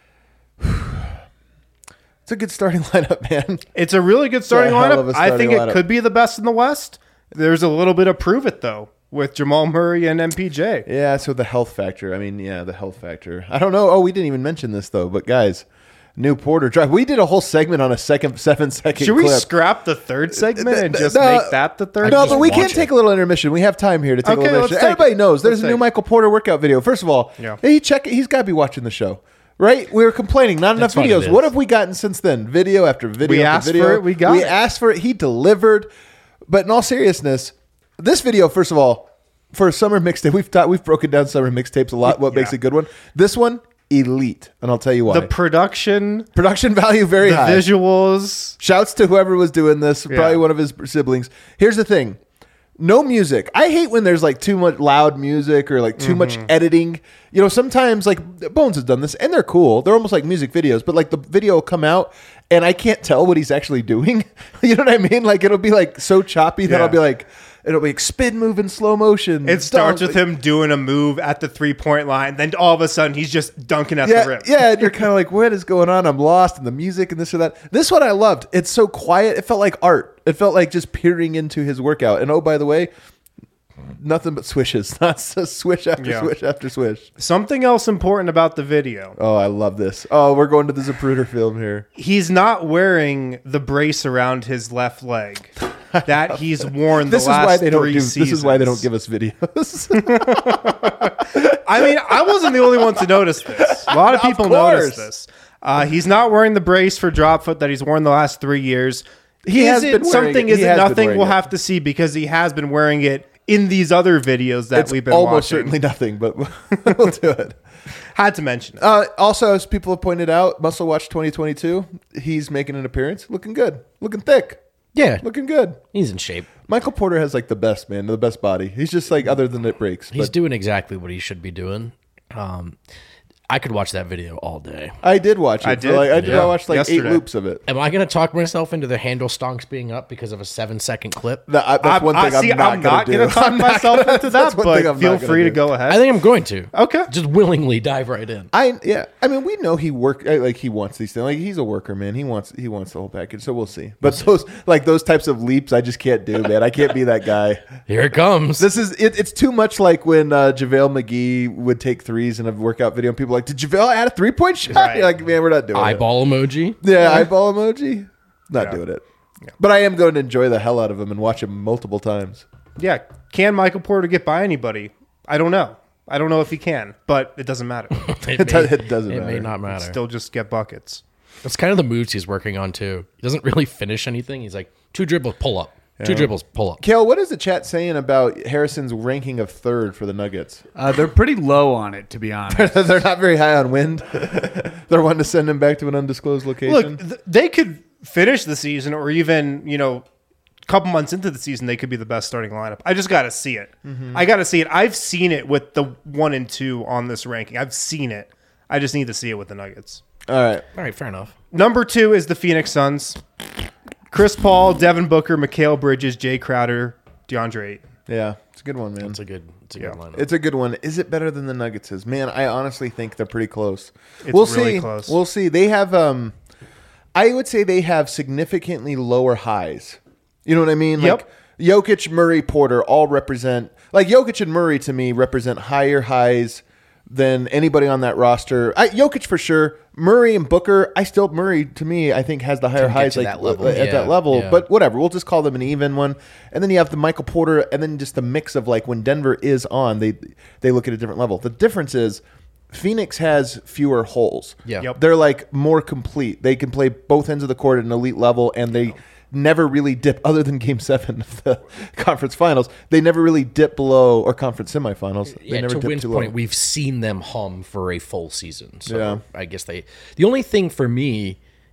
It's a good starting lineup, man. It's a really good starting a hell of lineup. a I think starting it lineup. could be the best in the West. There's a little bit of prove it though with Jamal Murray and M P J. Yeah, so the health factor. I mean, yeah, the health factor. I don't know. Oh, we didn't even mention this though, but guys, new Porter drive. We did a whole segment on a second seven second Should we clip. scrap the third segment and just No, make that the third? No, just but we watch can't it. take a little intermission. We have time here to take Okay, a little let's intermission. take Everybody it. knows there's Let's a new take it. Michael Porter workout video. First of all, Yeah. he check. He's got to be watching the show, right? We were complaining not enough That's what it videos. is. What have we gotten since then? Video after video. We after asked video. for it, we got We it. asked for it. He delivered. But in all seriousness, this video, first of all, for a summer mixtape, we've taught, we've broken down summer mixtapes a lot. What makes Yeah. a good one? This one, elite, and I'll tell you why. The production, Production value very the high. visuals. Shouts to whoever was doing this, probably Yeah. one of his siblings. Here's the thing. No music. I hate when there's like too much loud music or like too much Mm-hmm. editing. You know, sometimes like Bones has done this and they're cool. They're almost like music videos, but like the video will come out and I can't tell what he's actually doing. You know what I mean? Like it'll be like so choppy that Yeah. I'll be like, it'll be like spin move in slow motion. It starts Dunk. with him doing a move at the three point line. Then all of a sudden he's just dunking at Yeah, the rim. yeah, and you're kind of like, what is going on? I'm lost in the music and this or that. This one I loved. It's so quiet. It felt like art. It felt like just peering into his workout. And oh, by the way, nothing but swishes. Not just swish after Yeah. swish after swish. Something else important about the video. Oh, I love this. Oh, we're going to the Zapruder film here. He's not wearing the brace around his left leg that he's worn This the is last why they don't three do. seasons. This is why they don't give us videos. I mean, I wasn't the only one to notice this. A lot of Of people course. noticed this. Uh, he's not wearing the brace for drop foot that he's worn the last three years. He Is has it been wearing something? it. Is He it has been nothing? wearing We'll it. have to see because he has been wearing it in these other videos that It's we've been almost watching. certainly nothing, but we'll do it. Had to mention it. Uh, also, as people have pointed out, Muscle Watch twenty twenty-two, he's making an appearance. Looking good. Looking thick. Yeah. Looking good. He's in shape. Michael Porter has like the best, man, the best body. He's just like, other than it breaks. He's But doing exactly what he should be doing. Um, I could watch that video all day. I did watch it. I for, did. Like, I did. Yeah. I watched like Yesterday. eight loops of it. Am I going to talk myself into the handle stonks being up because of a seven second clip? That- I- that's I'm- one thing I- see, I'm not I'm going not to do. gonna talk I'm not myself gonna- into that's that, one thing but I'm feel not gonna free to do. go ahead. I think I'm going to. Okay. Just willingly dive right in. I yeah. I mean, we know he work uh, like he wants these things. Like he's a worker, man. He wants he wants the whole package. So we'll see. But those like those types of leaps, I just can't do, man. I can't be that guy. Here it comes. This is it, it's too much like when uh, JaVale McGee would take threes in a workout video, and people are like, did JaVale add a three point shot? Right. You're like, man, we're not doing it. Eyeball emoji. Yeah, eyeball emoji. Not Yeah. doing it. But I am going to enjoy the hell out of him and watch him multiple times. Yeah. Can Michael Porter get by anybody? I don't know. I don't know if he can, but it doesn't matter. It, It does- it doesn't It may matter. not matter. Still just get buckets. That's kind of the moves he's working on too. He doesn't really finish anything. He's like two dribbles, pull up. Two dribbles, pull up. Kale, what is the chat saying about Harrison's ranking of third for the Nuggets? Uh, they're pretty low on it, to be honest. They're not very high on wind. They're wanting to send him back to an undisclosed location. Look, th- they could finish the season, or even you know, a couple months into the season, they could be the best starting lineup. I just got to see it. I got to see it. I've seen it with the one and two on this ranking. I've seen it. I just need to see it with the Nuggets. All right. All right, fair enough. Number two is the Phoenix Suns. Chris Paul, Devin Booker, Mikal Bridges, Jay Crowder, DeAndre Ayton. Yeah, it's a good one, man. It's a good, it's a Yeah. good lineup. It's a good one. Is it better than the Nuggets is? Man, I honestly think they're pretty close. It's we'll really see. close. We'll see. They have um I would say they have significantly lower highs. You know what I mean? Yep. Like Jokic, Murray, Porter all represent like Jokic and Murray to me represent higher highs than anybody on that roster. I, Jokic for sure. Murray and Booker, I still Murray to me I think has the higher get highs to like that level. at Yeah, that level. yeah. But whatever, we'll just call them an even one. And then you have the Michael Porter, and then just the mix of like when Denver is on, they they look at a different level. The difference is Phoenix has fewer holes. Yeah. Yep. They're like more complete. They can play both ends of the court at an elite level, and they never really dip, other than game seven of the conference finals, they never really dip below, or conference semifinals. They Yeah, never to dip Wynn's too point, low. we've seen them hum for a full season. So Yeah. I guess they. The only thing for me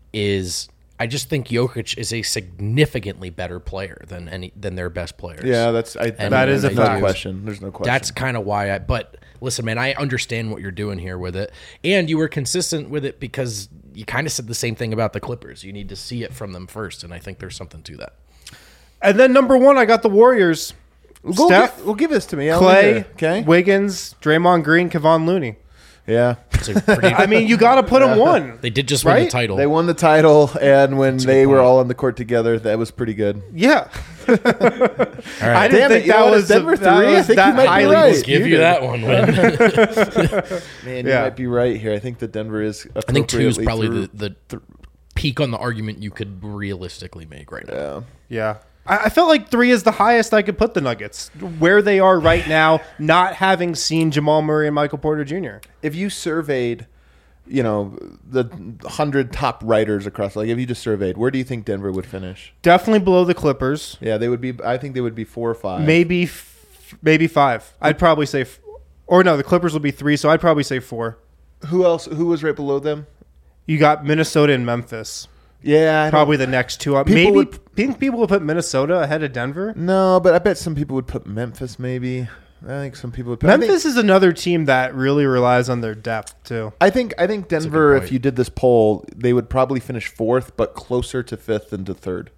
is I just think Jokic is a significantly better player than any than their best players. Yeah, that's I, And That is a there's no fact. question. There's no question. That's kind of why I. But listen, man, I understand what you're doing here with it, and you were consistent with it because you kind of said the same thing about the Clippers. You need to see it from them first, and I think there's something to that. And then number one, I got the Warriors. Go Steph, gi- well, give this to me. I'll Clay, leave it. Okay. Wiggins, Draymond Green, Kevon Looney. Yeah. It's a pretty, I mean, you got to put them one. they did just win Right? the title. They won the title, and when a they good were point. all on the court together, that was pretty good. Yeah. All I right, didn't Damn it, think you know that what, was is Denver a- that three? I was think that you might be highly right. disputed. give you that one. Win. Man, Yeah. you might be right here. I think that Denver is. I think two is appropriately probably through. the, the peak on the argument you could realistically make right now. Yeah. Yeah. I, I felt like three is the highest I could put the Nuggets. Where they are right now, not having seen Jamal Murray and Michael Porter Junior If you surveyed, you know, the hundred top writers across, like if you just surveyed, where do you think Denver would finish? Definitely below the Clippers. Yeah, they would be. I think they would be four or five. Maybe f- maybe five. I'd probably say, f- or no, the Clippers will be three, so I'd probably say four. Who else? Who was right below them? You got Minnesota and Memphis. Yeah, I don't- Probably the next two up. People Maybe would- think people will put Minnesota ahead of Denver. No, but I bet some people would put Memphis. Maybe I think some people would. Put, I think- Memphis is another team that really relies on their depth too. I think I think Denver, point. if you did this poll, they would probably finish fourth, but closer to fifth than to third.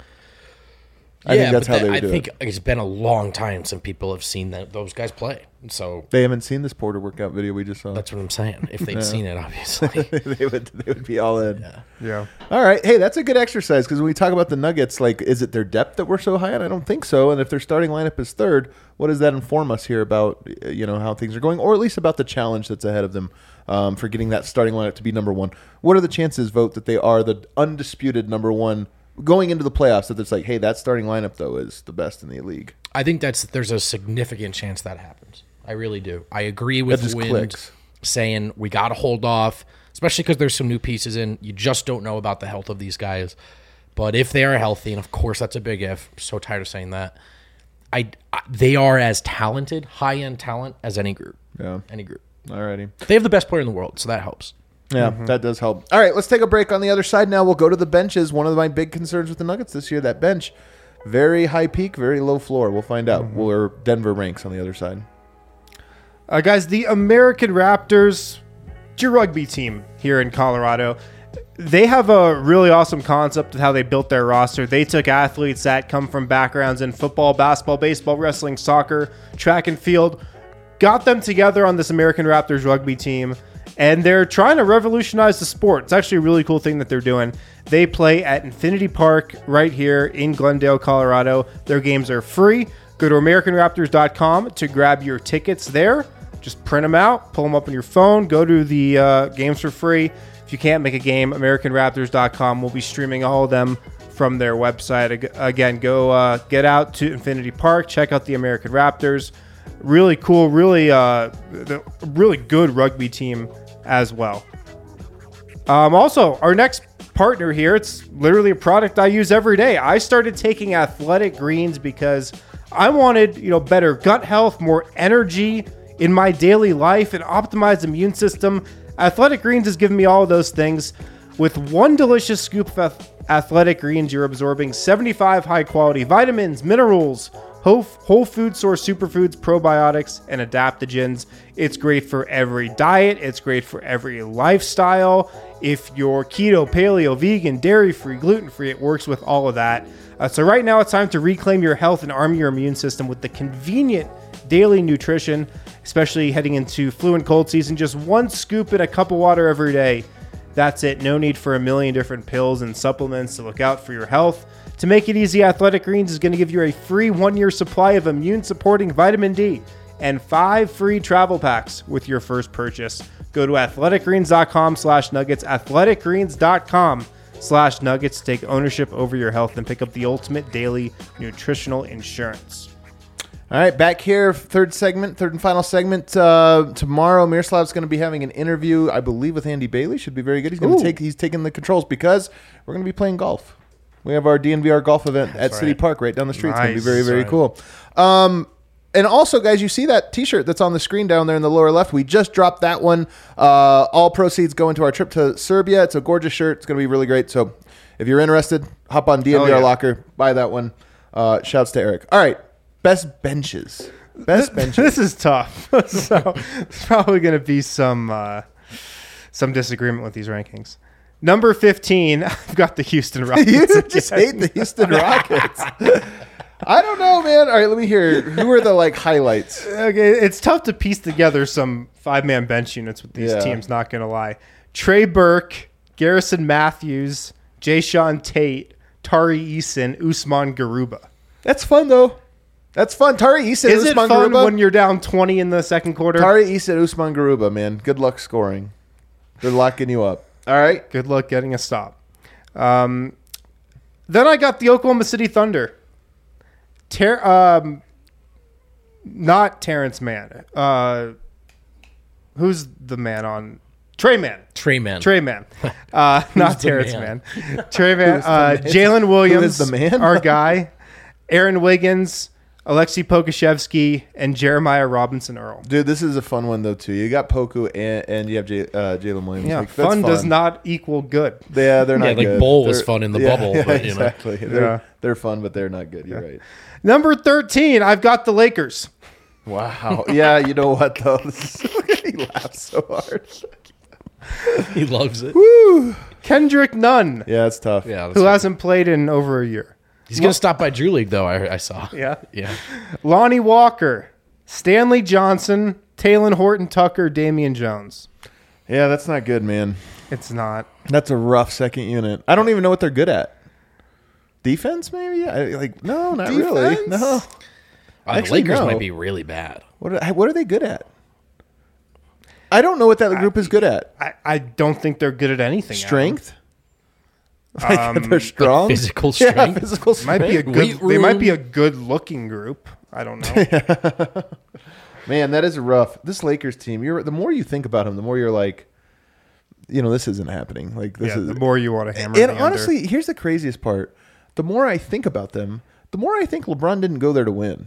I think that's but how that- they would I do think it. it's been a long time since people have seen that those guys play. So They haven't seen this Porter workout video we just saw. that's what I'm saying. If they'd seen it, obviously. they would they would be all in. Yeah. All right, hey, that's a good exercise because when we talk about the Nuggets, like, is it their depth that we're so high on? I don't think so. And if their starting lineup is third, what does that inform us here about uh, you know how things are going, or at least about the challenge that's ahead of them um, for getting that starting lineup to be number one? What are the chances, Vote, that they are the undisputed number one going into the playoffs? That it's like, hey, that starting lineup though is the best in the league. I think that's there's a significant chance that happens. I really do. I agree with That just Wind clicks. saying we got to hold off, especially because there's some new pieces in. You just don't know about the health of these guys. But if they are healthy, and of course that's a big if, I'm so tired of saying that, I, I they are as talented, high end talent as any group. Yeah. Any group. Alrighty. They have the best player in the world, so that helps. Yeah, that does help. All right, let's take a break on the other side now. We'll go to the benches. One of my big concerns with the Nuggets this year, that bench. Very high peak, very low floor. We'll find out where Denver ranks on the other side. Uh, guys, the American Raptors, it's your rugby team here in Colorado. They have a really awesome concept of how they built their roster. They took athletes that come from backgrounds in football, basketball, baseball, wrestling, soccer, track and field, got them together on this American Raptors rugby team, and they're trying to revolutionize the sport. It's actually a really cool thing that they're doing. They play at Infinity Park right here in Glendale, Colorado. Their games are free. Go to American Raptors dot com to grab your tickets there. Just print them out, pull them up on your phone, go to the uh, games for free. If you can't make a game, American Raptors dot com will be streaming all of them from their website. Ag- Again, go uh, get out to Infinity Park, check out the American Raptors. Really cool, really, uh, the, really good rugby team as well. Um, also, our next partner here, it's literally a product I use every day. I started taking Athletic Greens because I wanted, you know, better gut health, more energy in my daily life, and optimized immune system. Athletic Greens has given me all of those things. With one delicious scoop of Athletic Greens, you're absorbing seventy-five high-quality vitamins, minerals, whole, whole food source superfoods, probiotics, and adaptogens. It's great for every diet. It's great for every lifestyle. If you're keto, paleo, vegan, dairy-free, gluten-free, it works with all of that. Uh, so right now it's time to reclaim your health and arm your immune system with the convenient daily nutrition, especially heading into flu and cold season. Just one scoop in a cup of water every day. That's it. No need for a million different pills and supplements to look out for your health. To make it easy, Athletic Greens is going to give you a free one-year supply of immune-supporting vitamin D and five free travel packs with your first purchase. Go to athleticgreens.com slash nuggets, athleticgreens.com slash nuggets to take ownership over your health and pick up the ultimate daily nutritional insurance. All right, back here, third segment, third and final segment. Uh, tomorrow, Miroslav's going to be having an interview, I believe, with Andy Bailey. Should be very good. He's going to take. He's taking the controls because we're going to be playing golf. We have our D N V R golf event That's at City right. Park right down the street. It's going to be Nice. very, very Right. cool. Um, and also, guys, you see that T-shirt that's on the screen down there in the lower left? We just dropped that one. Uh, all proceeds go into our trip to Serbia. It's a gorgeous shirt. It's going to be really great. So if you're interested, hop on D N V R Oh, yeah. Locker, buy that one. Uh, shouts to Eric. All right, best benches. Best benches. This is tough. So there's probably going to be some uh, some disagreement with these rankings. Number fifteen, I've got the Houston Rockets. You again. just hate the Houston Rockets. I don't know, man. All right, let me hear. Who are the like highlights? Okay, it's tough to piece together some five-man bench units with these Yeah. teams, not going to lie. Trey Burke, Garrison Matthews, Jay Sean Tate, Tari Eason, Usman Garuba. That's fun though. That's fun. Tari Eason, Is it Usman fun Garuba. when you're down twenty in the second quarter? Tari Eason, Usman Garuba, man. Good luck scoring. They're locking you up. All right. Good luck getting a stop. Um, then I got the Oklahoma City Thunder. Ter- um, not Terrence Mann. Uh, who's the man on? Trey Mann. Trey Man. Trey Mann. Uh, not the Terrence man? Mann. Trey Mann. Who's the Uh, man? Jalen Williams. Who is the man? Our guy. Aaron Wiggins. Alexei Pokashevsky. And Jeremiah Robinson Earl. Dude, this is a fun one though too. You got Poku and, and you have J, uh, Jalen Williams. Yeah, Like, that's fun, does not equal good. Yeah, they're not Yeah, like good. Bowl was They're- fun in the yeah, bubble, yeah, but, you know. exactly. They're, Yeah. they're fun, but they're not good. You're right. Number thirteen, I've got the Lakers. Wow. Yeah, you know what though? This is, he laughs so hard. He loves it. Woo. Kendrick Nunn, Yeah, it's tough. Yeah, that's who right. hasn't played in over a year. He's gonna stop by Drew League though. I, I saw. Yeah. Yeah. Lonnie Walker, Stanley Johnson, Taylor Horton Tucker, Damian Jones. Yeah, that's not good, man. It's not. That's a rough second unit. I don't even know what they're good at. Defense, maybe? I, like, no, not really. Defense? No. Uh, the Actually, Lakers no. might be really bad. What are, what are they good at? I don't know what that group is good at. I, I don't think they're good at anything. Strength? Like, they're strong? physical Yeah, strength? physical Adam. Might strength. be a good. Weight They might be a room. good looking group. I don't know. Man, that is rough. This Lakers team, you're the more you think about them, the more you're like, you know, this isn't happening. Like this yeah, is the more you want to hammer. And the under. honestly, here's the craziest part. The more I think about them, the more I think LeBron didn't go there to win.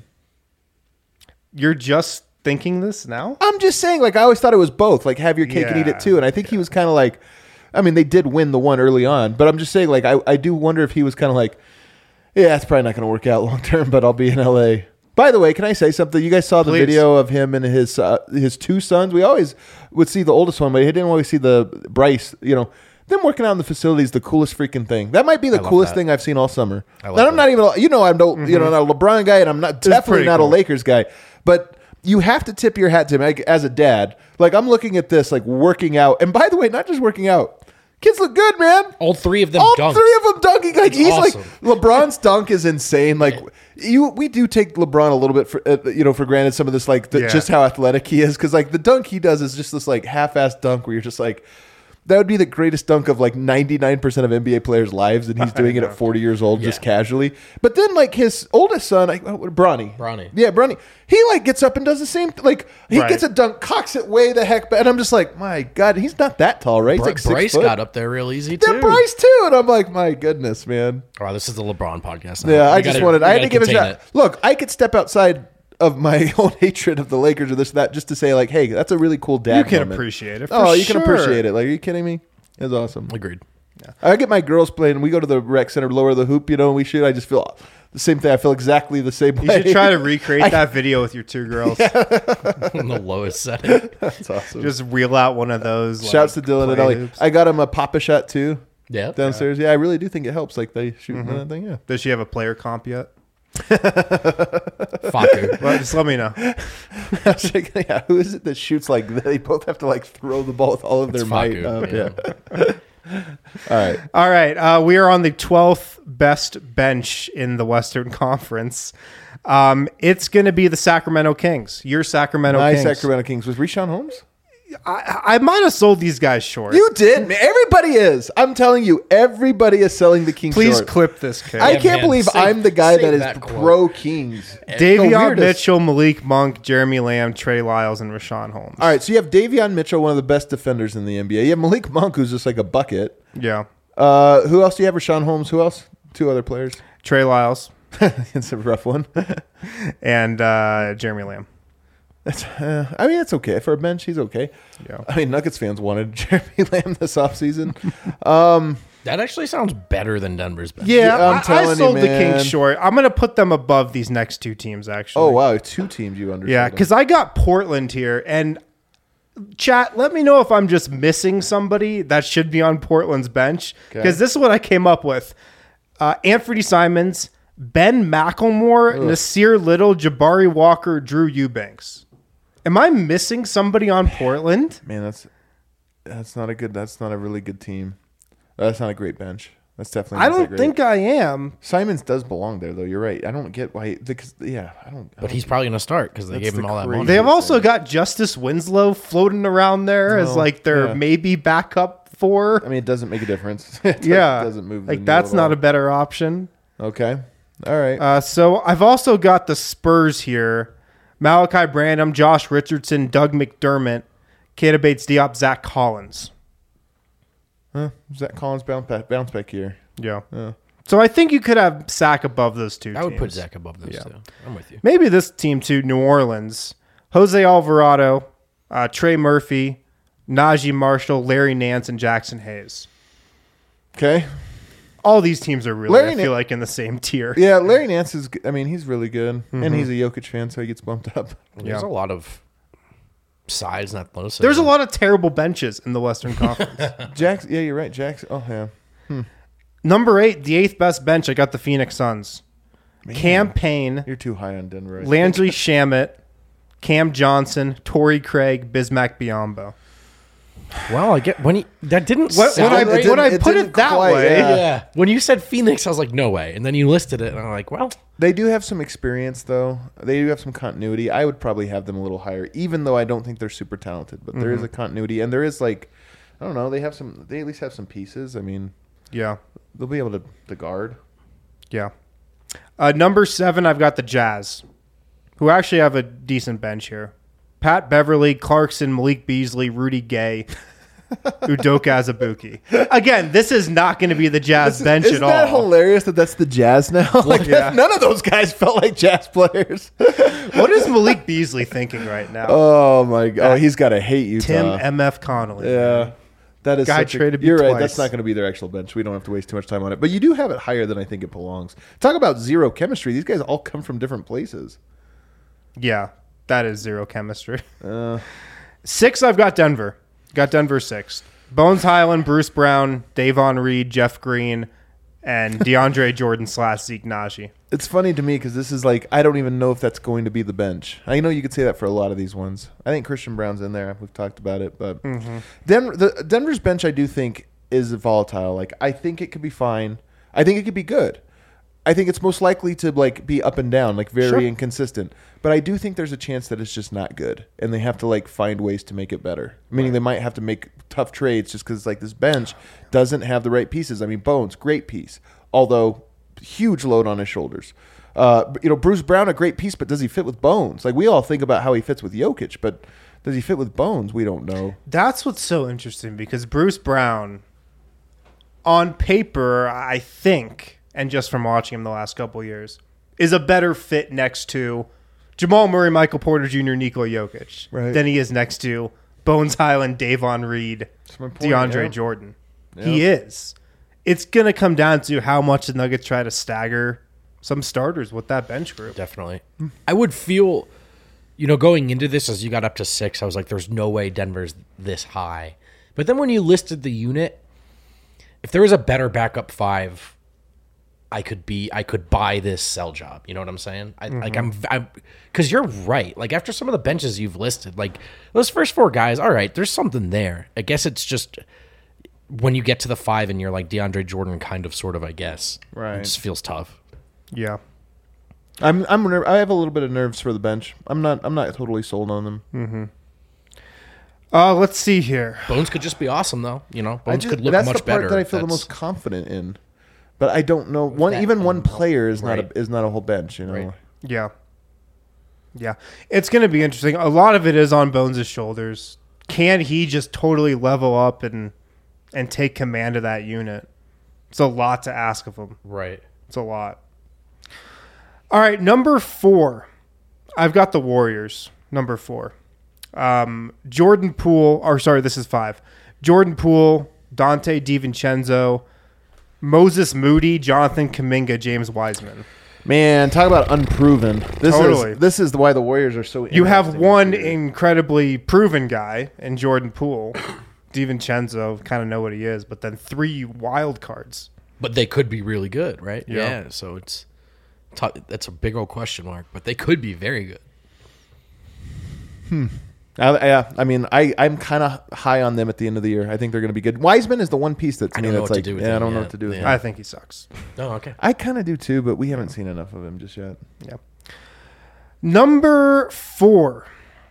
you're just thinking this now. I'm just saying, like, I always thought it was both. Like, have your cake and eat Yeah, it too. And I think he was kind of like, I mean, they did win the one early on, but I'm just saying, like, I, I do wonder if he was kind of like, yeah, it's probably not going to work out long term, but I'll be in L A. By the way, can I say something? You guys saw the Please. video of him and his uh, his two sons. We always would see the oldest one, but he didn't always see the Bryce. You know, them working out in the facility is the coolest freaking thing. That might be the love coolest that. thing I've seen all summer. I love And I'm that. not even, you know, I'm no, you know, not a LeBron guy, and I'm not definitely pretty not cool. a Lakers guy, but you have to tip your hat to him like, as a dad. Like, I'm looking at this, like, working out. And by the way, not just working out. Kids look good, man. All three of them All dunked. three of them dunking. Like, It's he's awesome. like, LeBron's dunk is insane. Like, you, we do take LeBron a little bit for, uh, you know, for granted some of this, like, the, Yeah. just how athletic he is. Because, like, the dunk he does is just this, like, half-assed dunk where you're just like, That would be the greatest dunk of like ninety-nine percent of N B A players' lives, and he's doing it at forty years old, just Yeah. casually. But then, like, his oldest son, like, oh, Bronny. Bronny. Yeah, Bronny. He, like, gets up and does the same, like, he Right. gets a dunk, cocks it way the heck back. And I'm just like, my God, he's not that tall, right? He's Br- like six Bryce foot. got up there real easy too. Then Bryce, too. And I'm like, my goodness, man. Wow, this is the LeBron podcast. Now. Yeah, I We just gotta- wanted, we I had to gotta give it a contain shot. Look, I could step outside of my own hatred of the Lakers or this, that, just to say, like, hey, that's a really cool dad You can moment. appreciate it. For Oh, you can sure. appreciate it. Like, are you kidding me? It's awesome. Agreed. I get my girls playing. We go to the rec center, lower the hoop. You know, we shoot. I just feel the same thing. I feel exactly the same You way. should try to recreate that video with your two girls. In the lowest setting. That's awesome. Just reel out one of those. Shouts like, to Dylan and play Ellie. hoops. I got him a Papa shot too Yeah. downstairs. Yeah. I really do think it helps. Like they shoot Mm-hmm. that thing. Yeah. Does she have a player comp yet? Faku. Well, just let me know. I was like, yeah. Who is it that shoots like that? They both have to like throw the ball with all of their It's might. Faku, up. yeah. Yeah. All right. All right. Uh, we are on the twelfth best bench in the Western Conference. Um, it's going to be the Sacramento Kings. Your Sacramento My Kings. Sacramento Kings was Rashawn Holmes. I, I might have sold these guys short. You did. Man. Everybody is. I'm telling you, everybody is selling the Kings. Please short. clip this, kid. I Yeah, can't man. believe Save- I'm the guy save that is that quote. pro Kings. The Davion weirdest. Mitchell, Malik Monk, Jeremy Lamb, Trey Lyles, and Rashawn Holmes. All right, so you have Davion Mitchell, one of the best defenders in the N B A. You have Malik Monk, who's just like a bucket. Yeah. Uh, who else do you have? Rashawn Holmes. Who else? Two other players. Trey Lyles It's a rough one. and uh, Jeremy Lamb. That's, uh, I mean, it's okay for a bench. He's okay. Yeah. I mean, Nuggets fans wanted Jeremy Lamb this offseason. Um, That actually sounds better than Denver's bench. Yeah, I'm I, telling I you, sold the man. Kings short. I'm going to put them above these next two teams, actually. oh wow, two teams you understand. Yeah, because I got Portland here, and chat, let me know if I'm just missing somebody that should be on Portland's bench, because this is what I came up with: uh, Anthony Simons, Ben McElmore, Nasir Little, Jabari Walker, Drew Eubanks. Am I missing somebody on Portland? man, that's that's not a good. That's not a really good team. That's not a great bench. That's definitely. I not that don't great. think I am. Simons does belong there, though. You're right. I don't get why. Because yeah, I don't. I But he's probably going to start because they That's gave him the all that crazy- money. They have also got Justice Winslow floating around there as Oh, like their yeah. maybe backup for. I mean, it doesn't make a difference. It doesn't- yeah, doesn't move. the like needle that's at not all. a better option. Okay. All right. Uh, so I've also got the Spurs here: Malachi Branham, Josh Richardson, Doug McDermott, Keita Bates-Diop, Zach Collins. huh? Zach Collins bounce back, bounce back here. Yeah. Yeah. So I think you could have Zach above those two. I would put teams. Zach above those two. I'm with you. Maybe this team too. New Orleans: Jose Alvarado, uh, Trey Murphy, Najee Marshall, Larry Nance, and Jackson Hayes. Okay. All these teams are really, Larry I Na- feel like, in the same tier. Yeah, Larry Nance is. g- I mean, he's really good, Mm-hmm. and he's a Jokic fan, so he gets bumped up. There's Yeah. a lot of size and athleticism. There's a lot of terrible benches in the Western Conference. Jackson. Yeah, you're right. Jackson. Oh yeah. Number eight, the eighth best bench. I got the Phoenix Suns. Cam Payne, You're too high on Denver. I think. Landry Shamet, Cam Johnson, Torrey Craig, Bismack Biyombo. Well, I get when he that didn't When, sound when I, it right. didn't- when I it put didn't it that quite, way, yeah. yeah. When you said Phoenix, I was like, no way. And then you listed it, and I'm like, well, They do have some experience, though. They do have some continuity. I would probably have them a little higher, even though I don't think they're super talented. But there is Mm-hmm. a continuity, and there is like, I don't know. They have some. They at least have some pieces. I mean, yeah, they'll be able to, to guard. yeah. Uh, number seven, I've got the Jazz, who actually have a decent bench here. Pat Beverly, Clarkson, Malik Beasley, Rudy Gay, Udoka Azubuike. Again, this is not going to be the Jazz bench Isn't at that all. hilarious that that's the Jazz now? like yeah. none of those guys felt like Jazz players. What is Malik Beasley thinking right now? oh my god! Oh, he's got to hate Utah. Tim M F Connolly. Yeah. That is Guy such traded a, me You're right. twice. That's not going to be their actual bench. We don't have to waste too much time on it. But you do have it higher than I think it belongs. Talk about zero chemistry. These guys all come from different places. Yeah, that is zero chemistry. Uh, Six, I've got Denver. Got Denver sixth. Bones Highland, Bruce Brown, Davon Reed, Jeff Green, and DeAndre Jordan slash Zeke Naji. it's funny to me because this is like I don't even know if that's going to be the bench. I know you could say that for a lot of these ones. I think Christian Brown's in there. We've talked about it, but Denver, the Denver's bench, I do think is volatile. Like I think it could be fine. I think it could be good. I think it's most likely to like be up and down, like very Sure. inconsistent. But I do think there's a chance that it's just not good, and they have to like find ways to make it better. Meaning they might have to make tough trades just because like this bench doesn't have the right pieces. I mean, Bones, great piece, although huge load on his shoulders. Uh, you know, Bruce Brown, a great piece, but does he fit with Bones? Like we all think about how he fits with Jokic, but does he fit with Bones? We don't know. That's what's so interesting because Bruce Brown, on paper, I think, and just from watching him the last couple of years, is a better fit next to Jamal Murray, Michael Porter Junior, Nikola Jokic Right. than he is next to Bones Highland, Davon Reed, my point, DeAndre yeah. Jordan. He is. It's going to come down to how much the Nuggets try to stagger some starters with that bench group. Definitely. I would feel, you know, going into this as you got up to six, I was like, there's no way Denver's this high. But then when you listed the unit, if there was a better backup five, I could be, I could buy this sell job. You know what I'm saying? I, Like I'm, I'm, because you're right. Like after some of the benches you've listed, like those first four guys, all right, there's something there. I guess it's just when you get to the five and you're like DeAndre Jordan, kind of, sort of. I guess, Right. It just feels tough. Yeah. I'm I'm ner- I have a little bit of nerves for the bench. I'm not I'm not totally sold on them. Uh, let's see here. Bones could just be awesome, though. You know, I Bones just- could look that's much the part better. that I if feel the that's- most confident in. But I don't know one that even one and- player is not right. a is not a whole bench. You know. Right. Yeah. Yeah. It's going to be interesting. A lot of it is on Bones' shoulders. Can he just totally level up and and take command of that unit? It's a lot to ask of him. Right. It's a lot. All right, number four. I've got the Warriors, number four. Um, Jordan Poole, or sorry, this is five. Jordan Poole, Dante DiVincenzo, Moses Moody, Jonathan Kuminga, James Wiseman. Man, talk about unproven. This Totally. is this is why the Warriors are so. You have interesting one this year. incredibly proven guy in Jordan Poole. DiVincenzo, kind of know what he is, but then three wild cards. But they could be really good, right? Yeah. Yeah. So it's t- that's a big old question mark, but they could be very good. I, yeah, I mean, I I'm kind of high on them at the end of the year. I think they're going to be good. Wiseman is the one piece that to I me don't know that's what to like, do with yeah, I him don't know yet. what to do with Yeah. him. I think he sucks. Oh, okay. I kind of do too, but we haven't seen enough of him just yet. Yeah. Number four.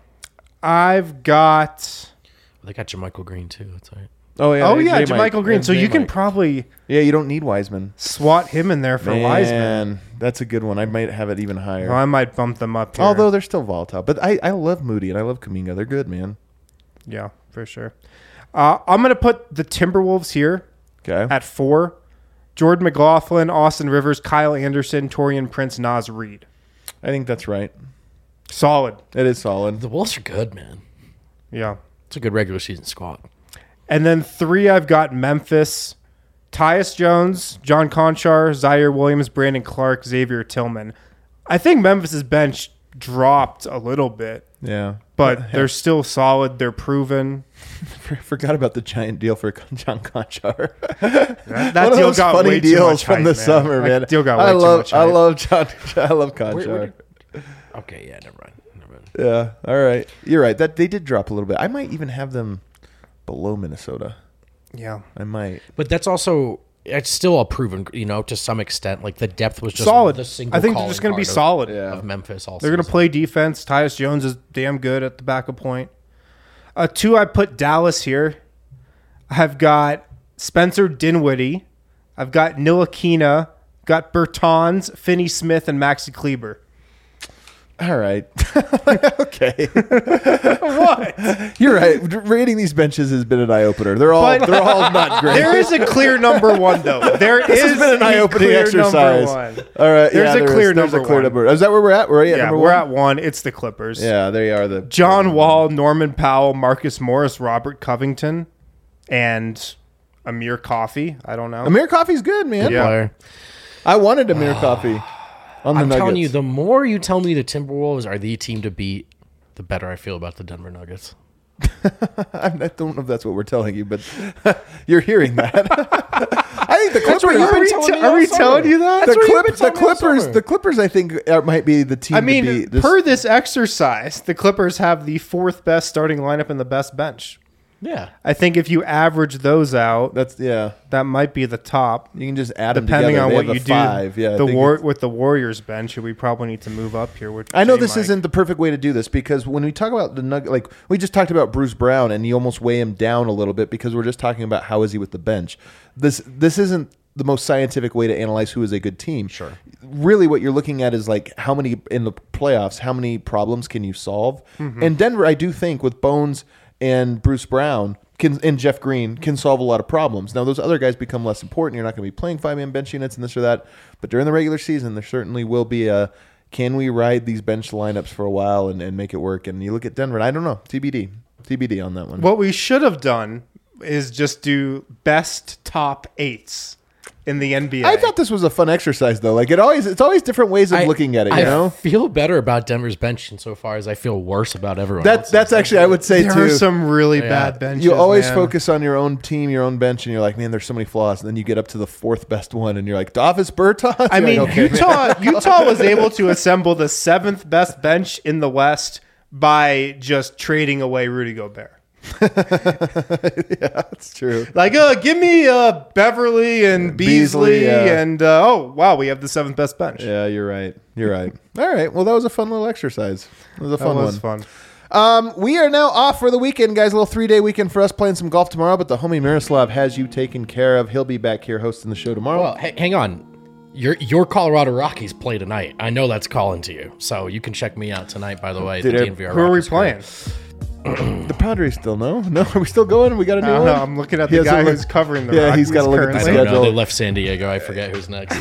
I've got. They got Jermichael Green too. That's all right. Oh yeah, Oh yeah, J. Mike. Jermichael Green. Yeah, So J. you can Mike. probably Yeah, you don't need Wiseman. swat him in there for Wiseman. Man, that's a good one. I might have it even higher. Well, I might bump them up here. Although they're still volatile, but I, I love Moody and I love Kuminga. They're good, man. yeah, for sure. Uh, I'm gonna put the Timberwolves here Okay, at four. Jordan McLaughlin, Austin Rivers, Kyle Anderson, Torian Prince, Nas Reed. I think that's right. Solid. It is solid. The Wolves are good, man. Yeah. It's a good regular season squad. And then three, I've got Memphis, Tyus Jones, John Conchar, Zaire Williams, Brandon Clark, Xavier Tillman. I think Memphis's bench dropped a little bit, Yeah, but they're still solid. They're proven. forgot about the giant deal for John Conchar. That, that One of deal those got funny way too deals much from hype, the man. summer, That man. deal got way I too love, much I hype. love John. I love Where- Conchar. where Okay, yeah, never mind. Never mind. Yeah, all right. You're right. That they did drop a little bit. I might even have them below Minnesota. Yeah. I might. But that's also it's still a proven, you know, to some extent. Like the depth was just Solid. The single I think they're calling just going to be card of- solid. Yeah. of Memphis. Also, They're going to play defense. Tyus Jones is damn good at the backup point. Uh, two, I put Dallas here. I've got Spencer Dinwiddie. I've got Ntilikina. Got Bertans, Finney Smith, and Maxi Kleber. All right. Okay. What? You're right. Rating these benches has been an eye opener. They're all But- they're all not great. There is a clear number one, though. There this is has been an a eye-opening clear exercise. number one. All right. There's yeah, a there clear is, there's number a clear one. number. Is that where we're at? We're at Yeah, number we're one? at one. It's the Clippers. Yeah, they are the John Wall, Norman Powell, Marcus Morris, Robert Covington, and Amir Coffey. I don't know. Amir Coffey's good, man. Yeah. player. I wanted Amir Coffey on the I'm Nuggets. telling you, the more you tell me the Timberwolves are the team to beat, the better I feel about the Denver Nuggets. I don't know if that's what we're telling you, but you're hearing that. I think the Clippers. what you've been are we, telling me are all we summer. telling you that? That's The, what you've Clip, been the telling me all Clippers. summer. The Clippers. I think uh, might be the team. I mean, to beat. This, per this exercise, the Clippers have the fourth best starting lineup and the best bench. Yeah. I think if you average those out, That's yeah. that might be the top. You can just add them Depending together. on They what have you a do, five. Yeah, I the think war it's- with the Warriors bench, we probably need to move up here. With I know J. this Mike. isn't the perfect way to do this because when we talk about the Nugget, like we just talked about Bruce Brown, and you almost weigh him down a little bit because we're just talking about how is he with the bench. This this isn't the most scientific way to analyze who is a good team. Sure. Really, what you're looking at is like how many in the playoffs, how many problems can you solve? Mm-hmm. And Denver, I do think with Bones and Bruce Brown. Can, and Jeff Green can solve a lot of problems. Now, those other guys become less important. You're not going to be playing five-man bench units and this or that. But during the regular season, there certainly will be a, can we ride these bench lineups for a while and, and make it work? And you look at Denver, and I don't know. T B D. T B D on that one. What we should have done is just do best top eights in the N B A. I thought this was a fun exercise, though. Like, it always, it's always different ways of I- looking at it, you I know? feel better about Denver's bench insofar as I feel worse about everyone That, else's. that's actually, I would say, there too. are some really Yeah. bad benches. You always man. focus on your own team, your own bench, and you're like, man, there's so many flaws. And then you get up to the fourth best one, and you're like, Davis Bertans? I You're mean, like, okay, man. Utah Utah was able to assemble the seventh best bench in the West by just trading away Rudy Gobert. That's true. Like, uh, give me uh, Beverly and Beasley, Beasley, yeah. and uh, oh wow, we have the seventh best bench. Yeah, you're right. You're right. All right. Well, that was a fun little exercise. It was a that fun was one. fun. Um, we are now off for the weekend, guys. A little three day weekend for us, playing some golf tomorrow. But the homie Miroslav has you taken care of. He'll be back here hosting the show tomorrow. Well, h- hang on. Your your Colorado Rockies play tonight. I know that's calling to you, so you can check me out tonight. By the way, Dude, the uh, D N V R Who are we Rockies playing? crew. The Padres still no, no. Are we still going? We got a new I don't one. know. I'm looking at He the hasn't guy looked- who's covering the Yeah, Rockies he's gotta look at the I currently. don't know. schedule. They left San Diego. I forget who's next.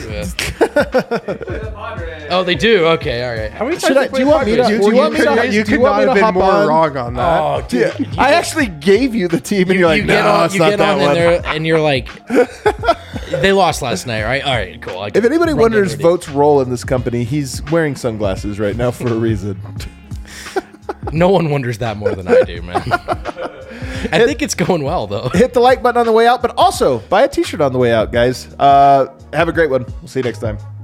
Yeah. Oh, they do. Okay, all right. How many times Should I- they do play you want me to- Padres? do you want me could, to- you do could you want not me have to been hop more on? wrong on that. Oh, dude. Yeah, I actually gave you the team, and You, you're like, you no, get on, it's you not get that on one. and, they're, and you're like, they lost last night, right? All right, cool. I If anybody run wonders Denver Vote's role in this company, he's wearing sunglasses right now for a reason. deep. No one wonders that more than I do, man. I think it's going well, though. Hit the like button on the way out, but also buy a t-shirt on the way out, guys. Uh, have a great one. We'll see you next time.